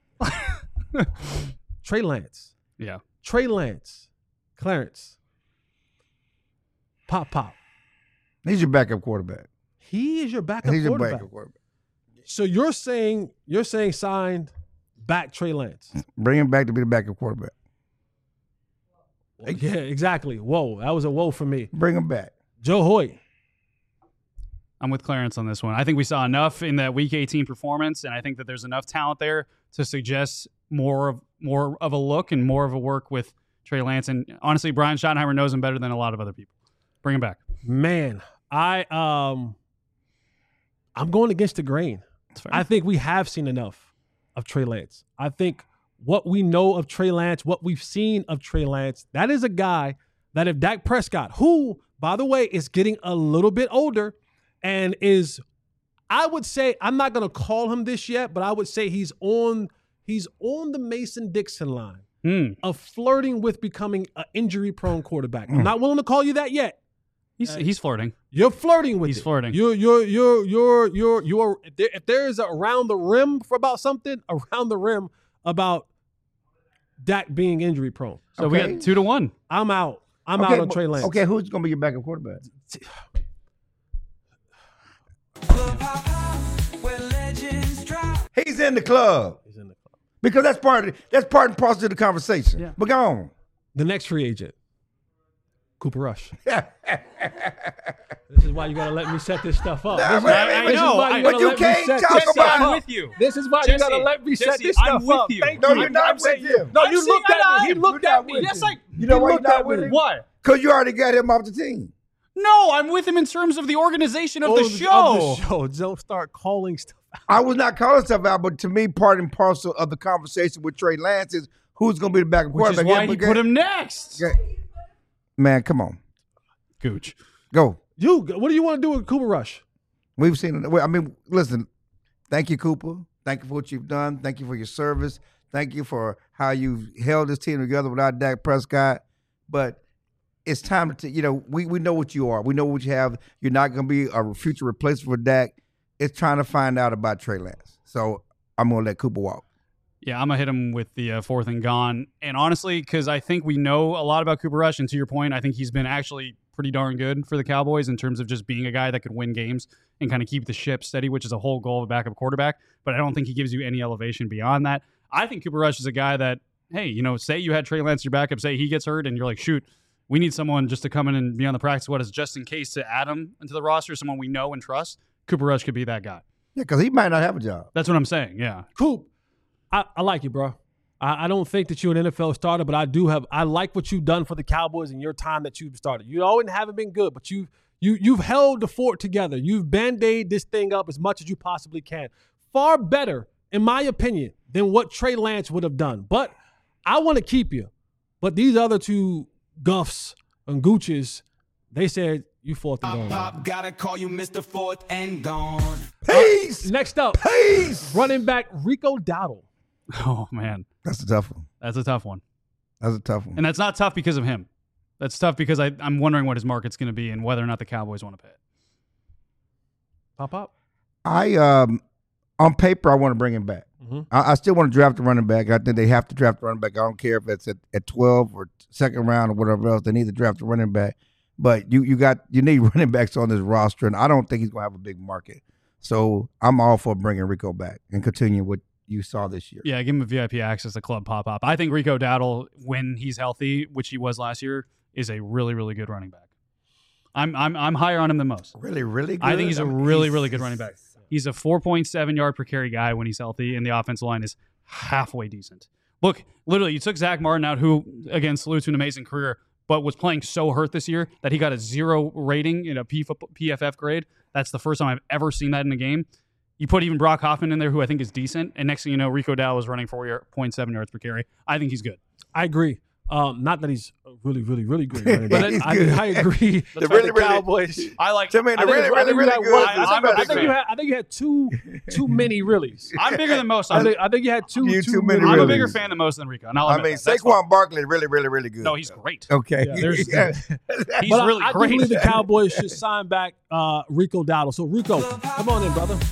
Trey Lance. Yeah. Trey Lance. Clarence. Pop. He's your backup quarterback. He is your backup He's your quarterback. backup quarterback. So you're saying signed back Trey Lance. Bring him back to be the backup quarterback. Yeah, exactly. Whoa, that was a whoa for me. Bring him back. Joe Hoyt. I'm with Clarence on this one. I think we saw enough in that Week 18 performance, and I think that there's enough talent there to suggest more of a look and more of a work with Trey Lance. And honestly, Brian Schottenheimer knows him better than a lot of other people. Bring him back. Man, I'm going against the grain. I think we have seen enough of Trey Lance. I think what we know of Trey Lance, what we've seen of Trey Lance, that is a guy that if Dak Prescott, who, by the way, is getting a little bit older and is, I would say, I'm not going to call him this yet, but I would say he's on the Mason-Dixon line of flirting with becoming an injury-prone quarterback. I'm not willing to call you that yet. He's flirting. You're flirting with it. He's flirting. You're if there is a around the rim for about something, around the rim about Dak being injury prone. So we got 2-1. I'm out. I'm out on Trey Lance. Okay, who's going to be your backup quarterback? He's in the club. He's in the club. Because that's part and parcel of the conversation. Yeah. But go on. The next free agent, Cooper Rush. This is why you gotta let me set this stuff up. Nah, This is- man, this but is you- why but gotta you let me can't set talk this about stuff it. up. with you. This is why Jesse, you gotta let me set Jesse, this I'm stuff with up. you. Thank No, you. you're not I'm with saying him. No, I'm you saying looked at me. He I'm looked not at with me. Yes, him. You know He why you're looked not at with me. him? What? Because you already got him off the team. No, I'm with him in terms of the organization of the show. Of the show. Don't start calling stuff out. I was not calling stuff out, but to me, part and parcel of the conversation with Trey Lance is who's going to be the backup Which is quarterback. why he put him next. Man, come on. Gooch. Go. What do you want to do with Cooper Rush? We've seen it. I mean, listen, thank you, Cooper. Thank you for what you've done. Thank you for your service. Thank you for how you've held this team together without Dak Prescott. But it's time to, we know what you are. We know what you have. You're not going to be a future replacement for Dak. It's trying to find out about Trey Lance. So I'm going to let Cooper walk. Yeah, I'm going to hit him with the fourth and gone. And honestly, because I think we know a lot about Cooper Rush, and to your point, I think he's been actually pretty darn good for the Cowboys in terms of just being a guy that could win games and kind of keep the ship steady, which is a whole goal of a backup quarterback. But I don't think he gives you any elevation beyond that. I think Cooper Rush is a guy that, hey, say you had Trey Lance your backup, say he gets hurt, and you're like, shoot, we need someone just to come in and be on the practice squad just in case to add him into the roster, someone we know and trust. Cooper Rush could be that guy. Yeah, because he might not have a job. That's what I'm saying, yeah. Coop, I like you, bro. I don't think that you're an NFL starter, but I like what you've done for the Cowboys in your time that you've started. You always haven't been good, but you've held the fort together. You've band-aid this thing up as much as you possibly can. Far better, in my opinion, than what Trey Lance would have done. But I want to keep you. But these other two Guffs and Gooches, they said you fourth and gone. Pop, gotta call you Mr. Fourth and gone. Peace. Next up, Peace. running back Rico Dowdle. Oh, man. That's a tough one. That's a tough one. That's a tough one. And that's not tough because of him. That's tough because I'm wondering what his market's going to be and whether or not the Cowboys want to pay it. Pop. On paper, I want to bring him back. Mm-hmm. I still want to draft a running back. I think they have to draft a running back. I don't care if it's at 12 or second round or whatever else. They need to draft a running back. But you need running backs on this roster, and I don't think he's going to have a big market. So I'm all for bringing Rico back and continuing what you saw this year. Yeah, give him a VIP access to Club Pop-Up. I think Rico Dowdle, when he's healthy, which he was last year, is a really, really good running back. I'm higher on him than most. Really, really good? I think he's a really, really good running back. He's a 4.7 yard per carry guy when he's healthy, and the offensive line is halfway decent. Look, literally, you took Zach Martin out, who, again, salute to an amazing career, but was playing so hurt this year that he got a 0 rating in a PFF grade. That's the first time I've ever seen that in a game. You put even Brock Hoffman in there, who I think is decent, and next thing you know, Rico Dowdle is running 4.7 yards per carry. I think he's good. I agree. Not that he's a really, really, really good running back. He's I good. agree. The really, the really- Cowboys. I like. To me, the really, really, really good. I think you had too many reallys. I'm bigger than most. I think you had too too many I'm a reallys. bigger fan than most than Rico. And I'll I admit mean, that. That's Saquon fine. Barkley is really, really, really good. No, he's great. Okay. Yeah, there's- He's But really I do great. believe the Cowboys should sign back Rico Dowdle. So Rico, come on in, brother.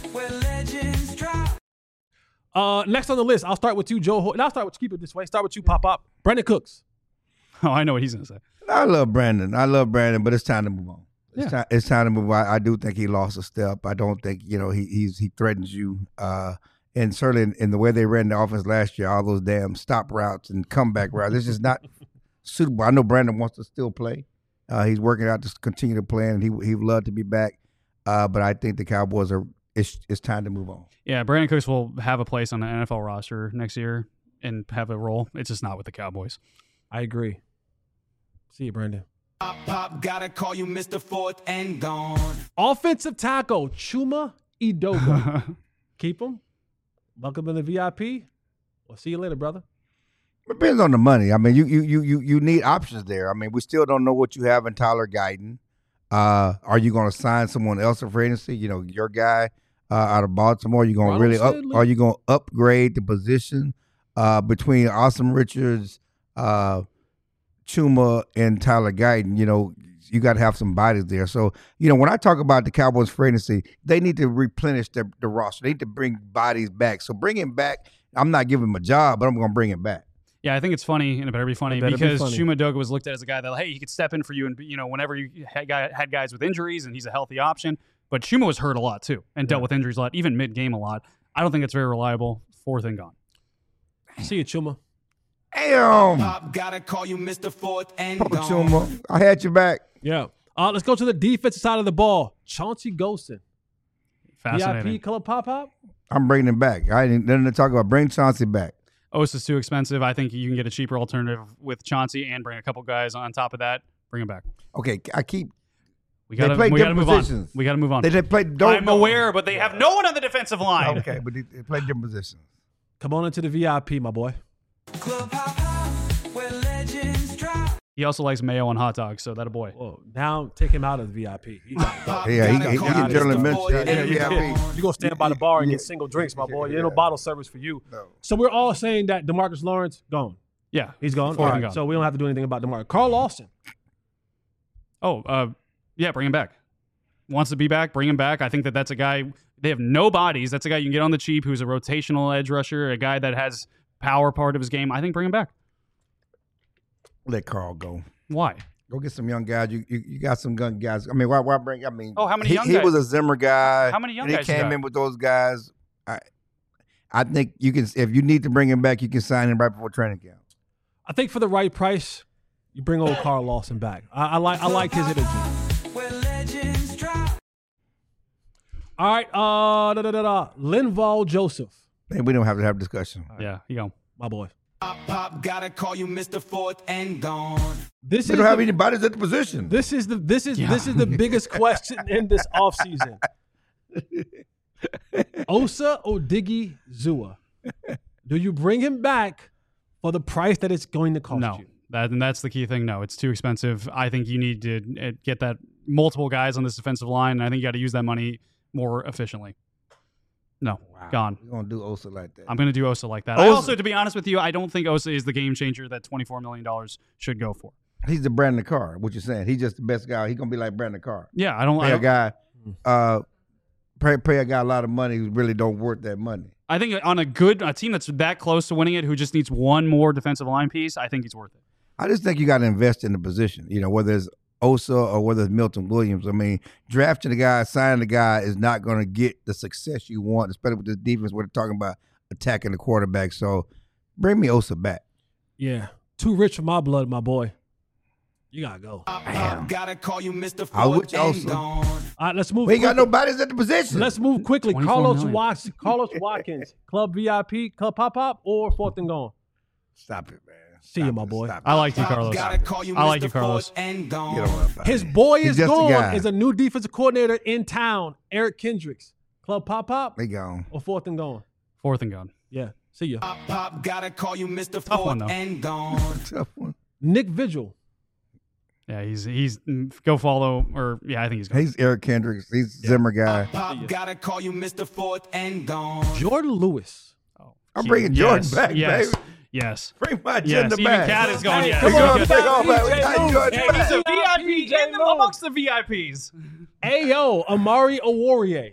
Next on the list, I'll start with you, Joe. And I'll start with keep it this way. Start with you, Pop. Brandon Cooks. Oh, I know what he's going to say. I love Brandon, but it's time to move on. It's time to move on. I do think he lost a step. I don't think he threatens you. And certainly in the way they ran the offense last year, all those damn stop routes and comeback routes, this is not suitable. I know Brandon wants to still play. He's working out to continue to play, and he'd love to be back. But I think the Cowboys it's time to move on. Yeah, Brandon Cooks will have a place on the NFL roster next year and have a role. It's just not with the Cowboys. I agree. See you, Brandon. Pop, gotta call you Mr. Fourth and gone. Offensive tackle, Chuma Edoga. Keep him. Welcome to the VIP. We'll see you later, brother. Depends on the money. I mean, you need options there. I mean, we still don't know what you have in Tyler Guyton. Are you going to sign someone else in free agency? You know, your guy out of Baltimore. You going to really up? Are you going to upgrade the position between Austin Richards, Chuma, and Tyler Guyton? You know, you got to have some bodies there. So, you know, when I talk about the Cowboys free agency, they need to replenish the roster. They need to bring bodies back. So bring him back. I'm not giving him a job, but I'm going to bring him back. Yeah, I think it's funny, and it better be funny, because Chuma Doga was looked at as a guy that, hey, he could step in for you, and you know, whenever you had guys with injuries, and he's a healthy option. But Chuma was hurt a lot too, and dealt with injuries a lot, even mid-game a lot. I don't think it's very reliable. Fourth and gone. See you, Chuma. Damn. Gotta call you Mr. Fourth and Papa gone. Chuma, I had your back. Yeah. Let's go to the defensive side of the ball. Chauncey Golston. Fascinating. VIP Club Pop. I'm bringing him back. I ain't nothing to talk about. Bring Chauncey back. Osa's too expensive. I think you can get a cheaper alternative with Chauncey and bring a couple guys on top of that. Bring him back. Okay, I keep. We got to play move different on. positions. We got to move on. They play. I'm aware, but they have no one on the defensive line. Okay, but they play different positions. Come on into the VIP, my boy. Club Hop Hop, where legends drop. He also likes mayo on hot dogs, so that a boy. Whoa, now take him out of the VIP. He Yeah, he get general admission. You're going to stand by the bar and get single drinks, my boy. Ain't no bottle service for you. No. So we're all saying that DeMarcus Lawrence, gone. Yeah. He's gone. Fourth All and right, gone. so we don't have to do anything about DeMarcus. Carl Lawson. Yeah, bring him back. Wants to be back, bring him back. I think that's a guy, they have no bodies. That's a guy you can get on the cheap who's a rotational edge rusher, a guy that has power part of his game. I think bring him back. Let Carl go. Why? Go get some young guys. You got some young guys. I mean, why bring? I mean, how many young he guys? was a Zimmer guy. How many young and guys he you came got? in with those guys. I think you can. If you need to bring him back, you can sign him right before training camp. I think for the right price, you bring old Carl Lawson back. I like his energy. Where legends drop. All right, Linval Joseph, Man, we don't have to have a discussion. Yeah, you go. my boy. Pop, gotta call you Mr. Fourth and gone. This We is don't have the, any bodies at the position. this is the biggest question in this offseason. Osa Odighi Zua. Do you bring him back for the price that it's going to cost No. you? That's the key thing. No, it's too expensive. I think you need to get that multiple guys on this defensive line, and I think you got to use that money more efficiently. No, gone. We're gonna do Osa like that. I'm going to do Osa like that. Osa- I also, to be honest with you, I don't think Osa is the game changer that $24 million should go for. He's the Brandon Carr. What you're saying? He's just the best guy. He's gonna be like Brandon Carr. Yeah, I don't. Pay a guy. Pay a guy a lot of money who really don't worth that money. I think on a team that's that close to winning it, who just needs one more defensive line piece, I think he's worth it. I just think you got to invest in the position. You know, whether it's Osa or whether it's Milton Williams. I mean, drafting the guy, signing the guy is not going to get the success you want, especially with this defense. We're talking about attacking the quarterback. So bring me Osa back. Yeah, too rich for my blood, my boy. You gotta go. Damn. Gotta call you Mr. I would Fourth and also- gone. All right, let's move. We ain't got quickly. no bodies at the position. Let's move quickly. 24 million. Carlos Watkins, Club VIP, Club Pop, or fourth and gone. Stop it, man. See you, Stop my it. boy. Stop I it. like you, Carlos. Gotta call you I like Mr. you, Carlos. Fourth and gone. Get on that His body. boy He's is just a gone. guy. Is a new defensive coordinator in town, Eric Kendricks. Club Pop, They gone. or fourth and gone. Fourth and gone. Yeah, see ya. Pop, gotta call you Mr. Tough one, Fourth though. and gone. Tough one. Nick Vigil. Yeah, he's go follow or yeah, I think he's going. He's Eric Kendricks. He's Zimmer guy. Pop, gotta call you Mr. Fourth and gone. Jordan Lewis. I'm bringing Jordan back, yes, baby. Yes. Bring my Yes, agenda even back. Cat is going. Hey, Yeah, come he's on, good. take off, man. We PJ got Lewis. Jordan Hey, back. he's a VIP PJ in Lewis. amongst the VIPs. Ayo, Amari Owarrior.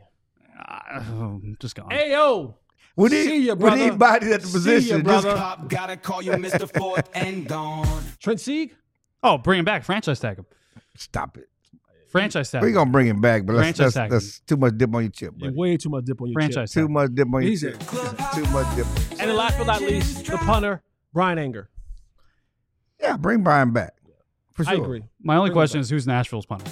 Just gone. Ayo. We See ya, need brother. bodies at the See ya, position. brother. Just- Pop, gotta call you Mr. Fourth and gone. Trent Sieg. Oh, bring him back. Franchise tag him. Stop it. Franchise tag We're him. gonna bring him back, but Franchise tag that's too much dip on your chip. Yeah, buddy. way too much dip on your Franchise chip. Too much dip on your Easy. chip. Too much dip. And then last but not least, the punter, Brian Anger. Yeah, bring Brian back. For sure. I agree. My only question is who's Nashville's punter?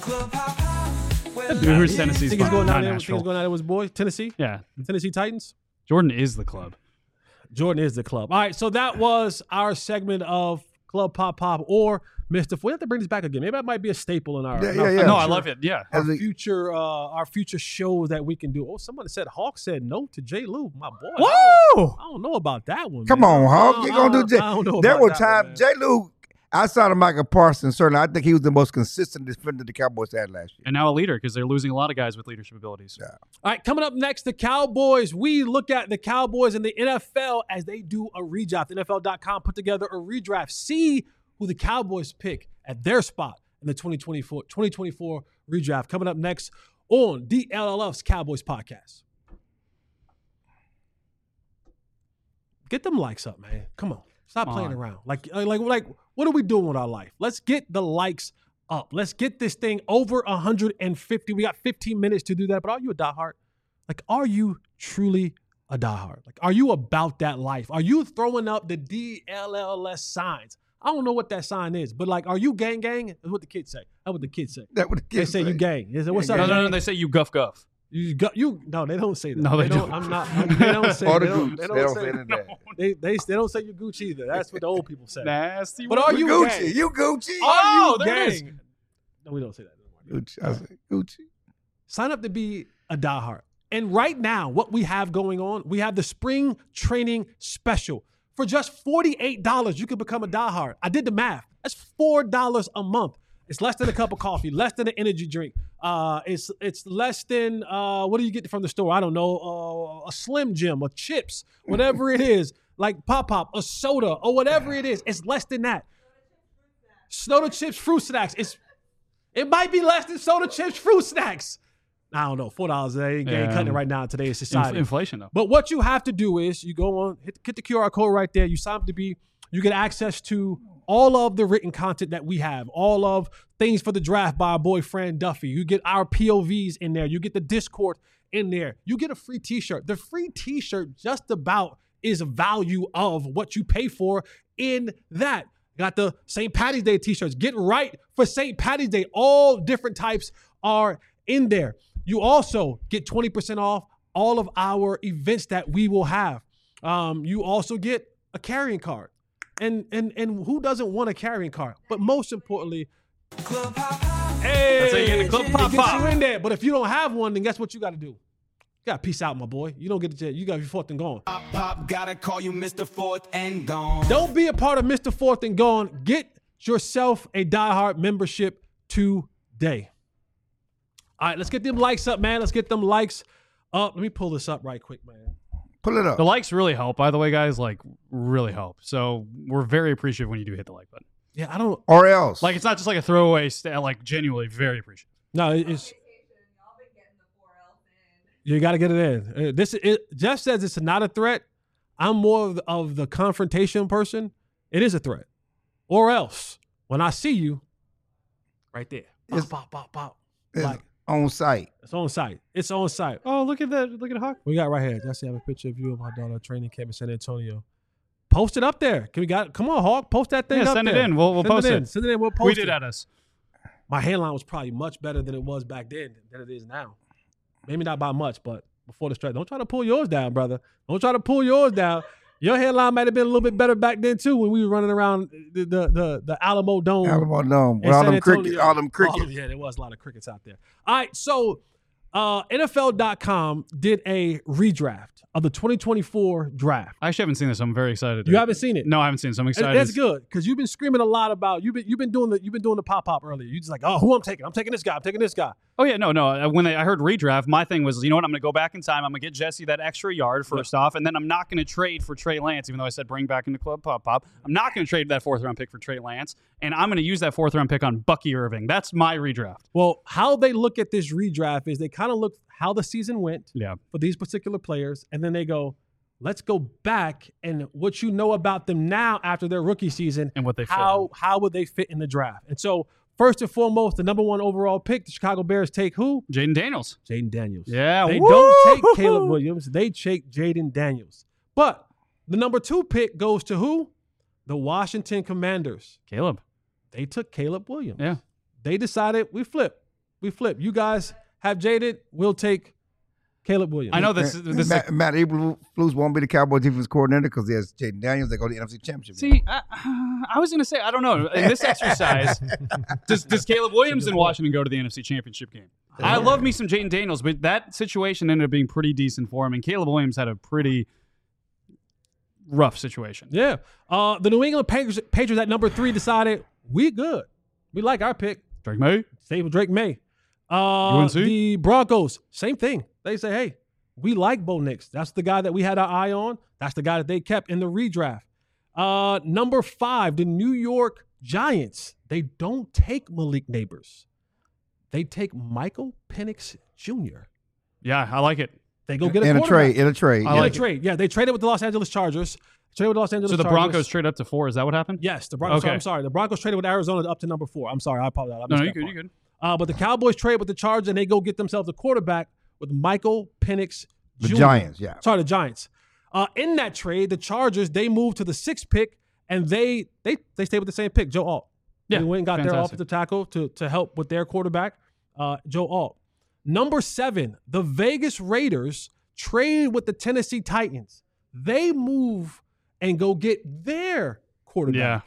Who's Tennessee's Think he's punter? going Not down there. Think Nashville. he's going down there with his boy, Tennessee. Yeah, Tennessee Titans. Jordan is the club. Jordan is the club. All right, so that was our segment of Club Pop or Mr. We have to bring this back again. Maybe that might be a staple in our, Yeah, in our yeah, yeah. No, I future- love it. Yeah. Our As a- future shows that we can do. Oh, somebody said Hawk said no to J. Lou, my boy. Whoa! I don't know about that one. Come man. on, Hawk. You gonna do I don't know There about were that one, times man. J. Lou outside of Michael Parsons, certainly I think he was the most consistent defender the Cowboys had last year. And now a leader because they're losing a lot of guys with leadership abilities. Yeah. All right, coming up next, the Cowboys. We look at the Cowboys and the NFL as they do a redraft. NFL.com put together a redraft. See who the Cowboys pick at their spot in the 2024 redraft. Coming up next on DLLF's Cowboys podcast. Get them likes up, man. Come on. Stop playing around. Like, what are we doing with our life? Let's get the likes up. Let's get this thing over 150. We got 15 minutes to do that. But are you a diehard? Like, are you truly a diehard? Like, are you about that life? Are you throwing up the DLLS signs? I don't know what that sign is, but like, are you gang? That's what the kids say. That's what the kids say. That what the kids They say you gang. They say, what's up? No, they say you guff. No, they don't say that. No, they don't. do. I'm not. They don't say. All They the don't, groups, they they don't don't say say that. that. They don't say you Gooch either. That's what the old people say. Nasty. But are you Gucci, gang? you Gucci. Are you there it is. gang? No, we don't say that anymore. Gucci. I said Gucci. Sign up to be a diehard. And right now, what we have going on, we have the spring training special. For just $48, you can become a diehard. I did the math. That's $4 a month. It's less than a cup of coffee, less than an energy drink. It's less than what do you get from the store? I don't know, a Slim Jim, or chips, whatever it is, like Pop, a soda, or whatever it is. It's less than that. Soda chips, fruit snacks. It might be less than soda chips, fruit snacks. I don't know, $4. They ain't cutting it right now in today's society. Inflation though. But what you have to do is you go on, hit the QR code right there. You sign up to be. You get access to all of the written content that we have, all of things for the draft by our boy Fran Duffy. You get our POVs in there. You get the Discord in there. You get a free t-shirt. The free t-shirt just about is a value of what you pay for in that. Got the St. Patty's Day t-shirts. Get right for St. Patty's Day. All different types are in there. You also get 20% off all of our events that we will have. You also get a carrying card. And who doesn't want a carrying card? But most importantly, hey, That's how you get the Club Pop it gets Pop. you in there. But if you don't have one, then guess what you got to do? You got to peace out, my boy. You don't get to you got to be fourth and gone. Pop, gotta call you Mr. Fourth and Gone. Don't be a part of Mr. Fourth and Gone. Get yourself a diehard membership today. All right, let's get them likes up, man. Let's get them likes up. Let me pull this up right quick, man. Pull it up. The likes really help, by the way, guys. Like, really help. So we're very appreciative when you do hit the like button. Yeah, I don't. Or else. Like, it's not just like a throwaway. Like, genuinely very appreciative. No, it's. You got to get it in. Jeff says it's not a threat. I'm more of the confrontation person. It is a threat. Or else, when I see you, right there, pop. it's Like, on site. it's on site. It's on site. Oh, look at that. Look at Hawk. We got right here. Jesse have a picture of you and my daughter training camp in San Antonio. Post it up there. Come on, Hawk. Post that thing Yeah, up send there. it in. We'll post it. Send it in. We'll post Tweet it. it at us. My hairline was probably much better than it was back then than it is now. Maybe not by much, but before the stretch. Don't try to pull yours down, brother. Don't try to pull yours down. Your hairline might have been a little bit better back then too when we were running around the Alamo Dome. Alamo Dome. in With all San them Antonio. crickets. All them crickets. Yeah, there was a lot of crickets out there. All right, so NFL.com did a redraft of the 2024 draft. I actually haven't seen this. I'm very excited. You haven't seen it? No, I haven't seen it. So I'm And excited. that's good because you've been screaming a lot about you've been doing the pop earlier. You just like, oh, who I'm taking this guy. I'm taking this guy. Oh, yeah. No. When I heard redraft, my thing was, you know what? I'm going to go back in time. I'm going to get Jesse that extra yard first off, and then I'm not going to trade for Trey Lance, even though I said bring back into Club Pop. I'm not going to trade that 4th-round pick for Trey Lance, and I'm going to use that 4th-round pick on Bucky Irving. That's my redraft. Well, how they look at this redraft is they kind of look how the season went Yeah. for these particular players, and then they go, let's go back and what you know about them now after their rookie season And what they fit how would they fit in the draft? And so first and foremost, the number one overall pick, the Chicago Bears take who? Jaden Daniels. Jaden Daniels. Yeah. They woo! don't take Caleb Williams. They take Jaden Daniels. But the number 2 pick goes to who? The Washington Commanders. Caleb. They took Caleb Williams. Yeah. They decided we flip. You guys have Jaden. We'll take Caleb Williams. I know this is Matt Eberflus won't be the Cowboys defense coordinator because there's Jaden Daniels. They go to the NFC Championship. See, I was going to say, I don't know. In this exercise, does Caleb Williams in Washington go to the NFC Championship game? I love me some Jaden Daniels, but that situation ended up being pretty decent for him. And Caleb Williams had a pretty rough situation. Yeah. The New England Patriots at number 3 decided we good. We like our pick. Drake May. Stay with Drake May. UNC? The Broncos, same thing. They say, hey, we like Bo Nix. That's the guy that we had our eye on. That's the guy that they kept in the redraft. Number 5, the New York Giants. They don't take Malik Neighbors. They take Michael Penix Jr. Yeah, I like it. They go get a in a quarterback. trade. In a trade. I like it. trade. Yeah, they traded with the Los Angeles Chargers. So the Broncos trade up to 4. Is that what happened? Yes, the Broncos. Okay. I'm sorry. The Broncos traded with Arizona up to number 4. I'm sorry. I apologize. I No, missed you that good. part. You good. But the Cowboys trade with the Chargers, and they go get themselves a quarterback with Michael Penix The Jr. Giants, yeah. Sorry, the Giants. In that trade, the Chargers, they moved to the 6th pick, and they stayed with the same pick, Joe Alt. Yeah, They went and got their fantastic. offensive tackle to help with their quarterback, Joe Alt. Number 7, the Vegas Raiders trade with the Tennessee Titans. They move and go get their quarterback, Yeah,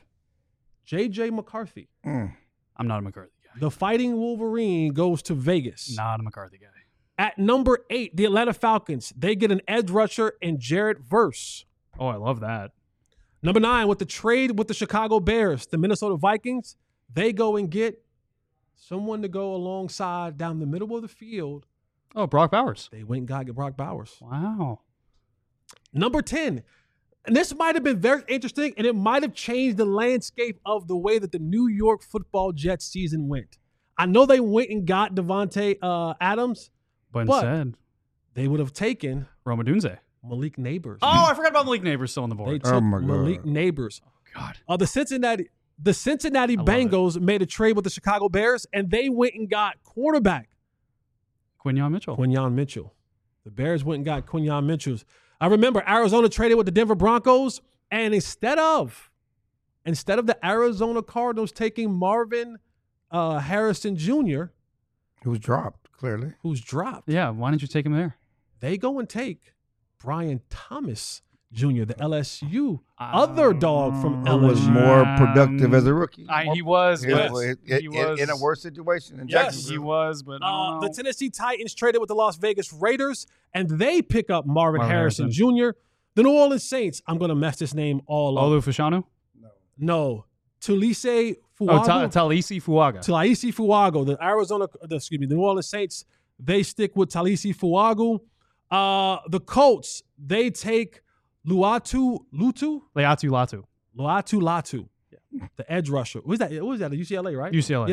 J.J. McCarthy. Mm. I'm not a McCarthy guy. The Fighting Wolverine goes to Vegas. Not a McCarthy guy. At number 8, the Atlanta Falcons. They get an edge rusher in Jarrett Verse. Oh, I love that. Number 9, with the trade with the Chicago Bears, the Minnesota Vikings, they go and get someone to go alongside down the middle of the field. Oh, Brock Bowers. They went and got Brock Bowers. Wow. Number 10, and this might have been very interesting, and it might have changed the landscape of the way that the New York Football Jets season went. I know they went and got Devontae Adams. But But- instead, They would have taken Roma Dunze. Malik Neighbors. Oh, I forgot about Malik Neighbors still on the They board. took Oh, my God. Malik Neighbors. God. The Cincinnati love Bengals made a trade with the Chicago Bears, and they went and got quarterback Quinyon Mitchell. Quinyon Mitchell. The Bears went and got Quinyon Mitchell. I remember Arizona traded with the Denver Broncos, and instead of the Arizona Cardinals taking Marvin Harrison Jr., It was dropped, clearly. who's dropped, Yeah, why didn't you take him there? they go and take Brian Thomas Jr., the LSU other dog from Who was LSU. more productive as a rookie. He was, Yes. but He was in a worse situation in Yes. Jacksonville. He was, but I don't The know. Tennessee Titans traded with the Las Vegas Raiders, and they pick up Marvin Harrison Harrison. Jr. The New Orleans Saints, I'm going to mess this name all up. Olu Fashanu? No. Tulise Oh, Fuago. Talisi Fuaga. Talisi Fuago. The New Orleans Saints, they stick with Talisi Fuago. The Colts, they take Luatu Leatu Latu. Latu. The edge rusher. Who's that? What was that? UCLA, right? UCLA.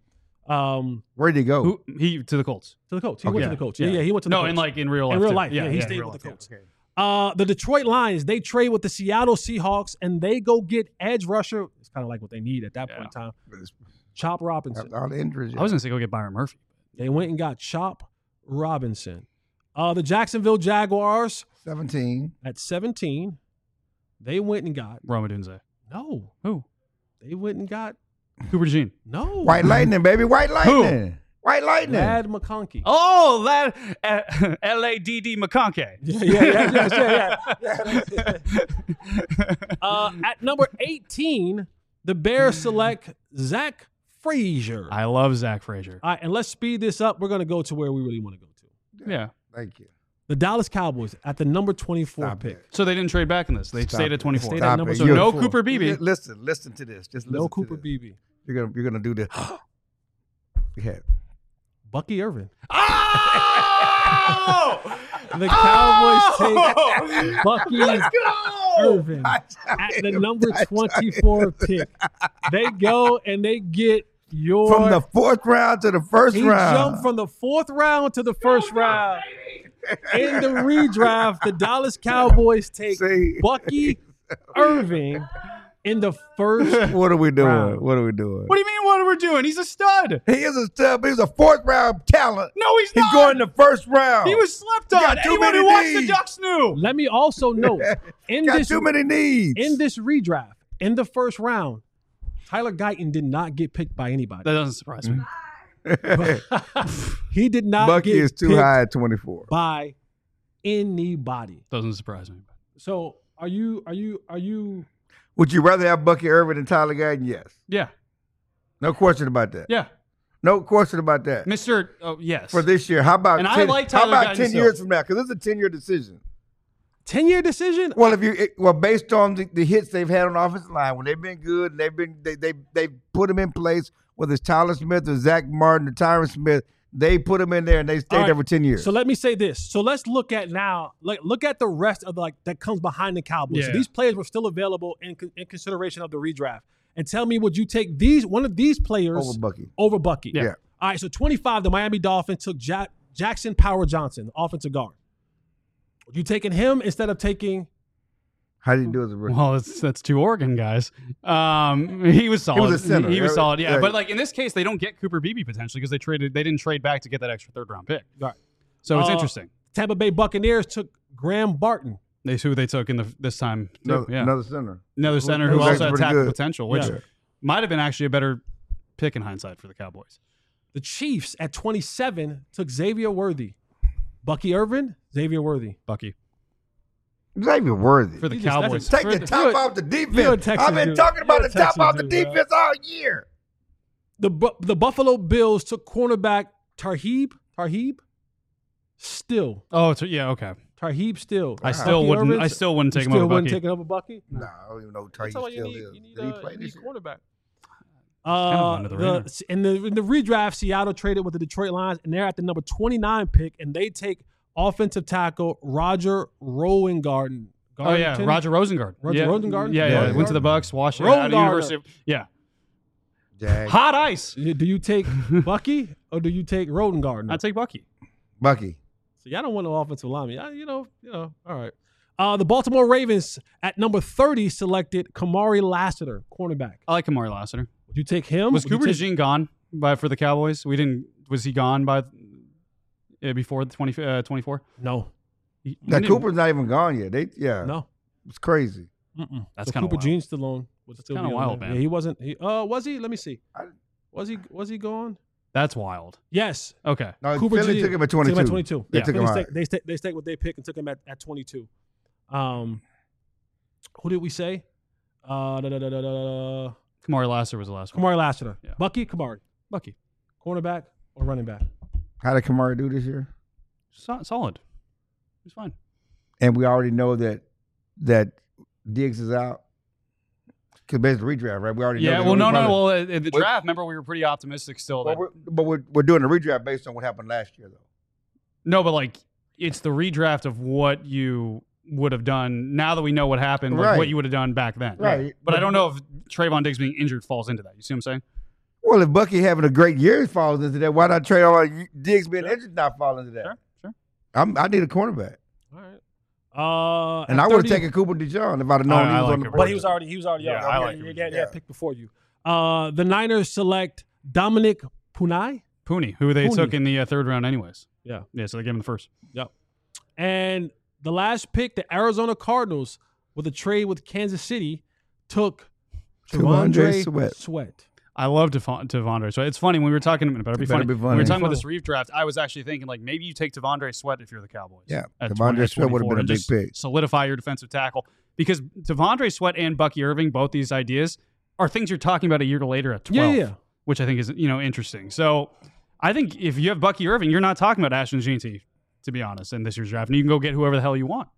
UCLA. Where'd he go? He to the Colts. To the Colts. He Okay. went to the Colts. Yeah, he went to the No, Colts. in real life. In real too. life, yeah, he stayed real with the life, Colts. okay. The Detroit Lions, they trade with the Seattle Seahawks, and they go get edge rusher. It's kind of like what they need at that point in time. Chop Robinson. After all the injuries. I was going to say go get Byron Murphy. They went and got Chop Robinson. The Jacksonville Jaguars 17. at 17, they went and got Roma Dunze. no. Who? They went and got Cooper DeJean. no. White Lightning, baby. White Lightning. White Lightning. Lad McConkey. Oh, that LADD McConkey. At number 18, the Bears select Zach Frazier. I love Zach Frazier. All right, and let's speed this up. We're going to go to where we really want to go to. Yeah. Thank you. The Dallas Cowboys at the number 24 Stop pick. it. So they didn't trade back in this. They Stop stayed it. at 24. Stayed at Stop number it. So You're- no Cooper Beebe. Listen to this. No Cooper Beebe. You're gonna do this. Yeah. Bucky Irvin. Oh! The Cowboys take Bucky Irvin I at the number 24 pick. They go and they get your From the 4th round to the first he round. jumped from the 4th round to the first round. In the redraft, the Dallas Cowboys take See? Bucky Irving in the first. What are we doing? round. What are we doing? What do you mean what are we doing? He's a stud. He is a stud, but he's a 4th round talent. No, he's He's not. going the first round. He was slept He on. got too Anyone many who watched the knees. Ducks knew. Let me also note in got this too many needs. in this redraft in the first round, Tyler Guyton did not get picked by anybody. That doesn't surprise me. He did not Bucky get is too picked high at 24. by anybody. Doesn't surprise me. So are you Would you rather have Bucky Irvin than Tyler Guyton? Yes. Yeah. No question about that. Yeah. No question about that. Mr. Oh, yes. For this year, how about And I 10, like how Tyler about Guyton 10 still. years from now? Because it's a 10-year decision. 10-year decision? Well, based on the hits they've had on the offensive line, when they've been good, they put them in place. Whether it's Tyler Smith or Zach Martin or Tyron Smith, they put them in there and they stayed there for 10 years. So let me say this. So let's look at now. Look at the rest of that comes behind the Cowboys. Yeah. So these players were still available in consideration of the redraft. And tell me, would you take one of these players over Bucky? Yeah. All right. So 25, the Miami Dolphins took Jackson Power Johnson, offensive guard. Would you taking him instead of taking? How did he do as a rookie? Well, that's 2 Oregon guys. He was solid. He was a center. He was solid, yeah. Yeah. But like in this case, they don't get Cooper Beebe potentially because they didn't trade back to get that extra 3rd-round pick. Right. So it's interesting. Tampa Bay Buccaneers took Graham Barton. They who they took in this time. Too. Another center. Another center who Who's also had actually pretty tackle good. potential, which might have been actually a better pick in hindsight for the Cowboys. The Chiefs at 27 took Xavier Worthy. Bucky Irvin, Xavier Worthy. Bucky. Xavier Worthy. For the You just- Cowboys. Take For the top off the you're a defense. Texas I've been dude. talking about You're the a top Texas off the dude, bro. defense all year. The Buffalo Bills took cornerback Tarheeb Still. Oh, yeah, okay. Tarheeb Still. I still wouldn't take him over wouldn't Bucky. take it over Bucky? No, I don't even know who That's Tarheeb why you still need, is. you need, Did he play you need this year? cornerback. kind of under the radar. In the redraft, Seattle traded with the Detroit Lions, and they're at the number 29 pick, and they take offensive tackle Roger Rowengarten. Oh yeah, Roger Rosengard. Roger Rosengarten? Yeah. Went to the Bucks. Washington. Out of University. Rosengarten. Yeah. Hot ice. Do you take Bucky or do you take Rodengarten? I take Bucky. Bucky. So y'all don't want no offensive lineman. All right. The Baltimore Ravens at number 30 selected Kamari Lassiter, cornerback. I like Kamari Lassiter. Would you take him? Was Cooper DeJean gone for the Cowboys? Was he gone by before the 24? No. Cooper's not even gone yet. No. It's crazy. That's so kind of Cooper Jean still on. That's kind of wild, man. Yeah, he wasn't. Was he? Let me see. Was he gone? That's wild. Yes. Okay. No, Cooper Philly Jean took him at 22. Took him at 22. They took him out. They stayed with their pick and took him at 22. Who did we say? Kamari Lassiter was the last one. Kamari Lassiter. Yeah. Bucky, Kamari. Bucky. Cornerback or running back? How did Kamari do this year? Solid. He's fine. And we already know that Diggs is out. Because basically redraft, right? We already know. Yeah, that. well, no. Probably- Well, at the draft, remember, we were pretty optimistic still. That, But we're doing a redraft based on what happened last year, though. no, but like, it's the redraft of what you would have done now that we know what happened, like Right. what you would have done back then. Right. But I don't know if Trayvon Diggs being injured falls into that. You see what I'm saying? Well, if Bucky having a great year falls into that, why not trade on Diggs being injured not fall into that? Sure. I need a cornerback. All right. And I would have taken Cooper DeJean if I'd have known he was like on the him. board. But he was already Yeah, up. I like he him. had picked before you. The Niners select Dominic Punai. Pooney, who they Pooney. took in the third round anyways. Yeah. Yeah, so they gave him the first. Yep. And the last pick, the Arizona Cardinals, with a trade with Kansas City, took T'Vondre T'Vondre Sweat. I love T'Vondre Sweat. It's funny when we were talking. It better be Better funny. be When we funny. were talking about this redraft, I was actually thinking like maybe you take T'Vondre Sweat if you're the Cowboys. Yeah, at T'Vondre 20, Sweat would have 24, been a and big just pick. Solidify your defensive tackle because T'Vondre Sweat and Bucky Irving, both these ideas are things you're talking about a year later at 12. Yeah. Which I think is interesting. So I think if you have Bucky Irving, you're not talking about Ashton Jeanty, to be honest, in this year's draft, and you can go get whoever the hell you want.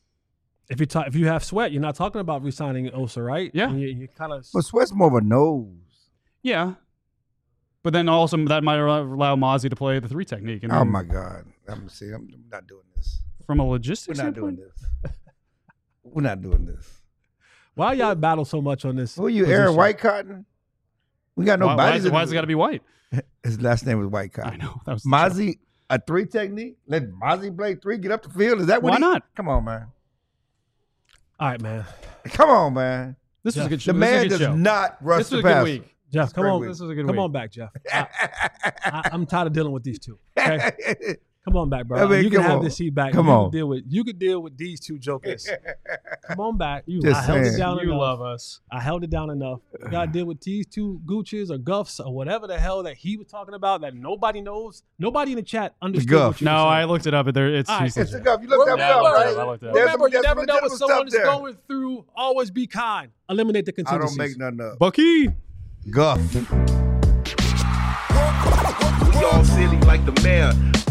If you have Sweat, you're not talking about re-signing Osa, right? Yeah. And you kind of. But Sweat's more of a nose. Yeah. But then also that might allow Mozzie to play the 3 technique. And Oh, then my God. I'm not doing this. from a logistics We're not doing standpoint, this. We're not doing this. Why y'all battle so much on this? Who are you, Aaron position? White Cotton? We got no why bodies. has it got to be white? His last name was White I Cotton. know. That was Mozzie, a 3 technique? Let Mozzie play 3, get up the field? Is that what Why not? Come on, man. All right, man. Come on, man. This was a good show. The This was a man good does show. not rush This the was a good passer. week. Jeff, come great on. week. This was a good Come week. on back, Jeff. I'm tired of dealing with these two. Okay? Come on back, bro. I mean, you can come have on. this seat back. Come you on. You could deal with these two jokers. Come on back. Just I held it saying. down You enough. love us. I held it down enough. You gotta deal with these two Gooches or Guffs or whatever the hell that he was talking about that nobody knows. Nobody in the chat understood Guff. what you were No, I saying. looked it up. It's All right. he's It's a legit. go. You looked that Remember, up, right? I looked it up. There's Remember, you some never know what legitimate someone is stuff there. going through. Always be kind. Eliminate the I contingencies. don't make nothing up. Bucky. Guff. We all silly like the mayor.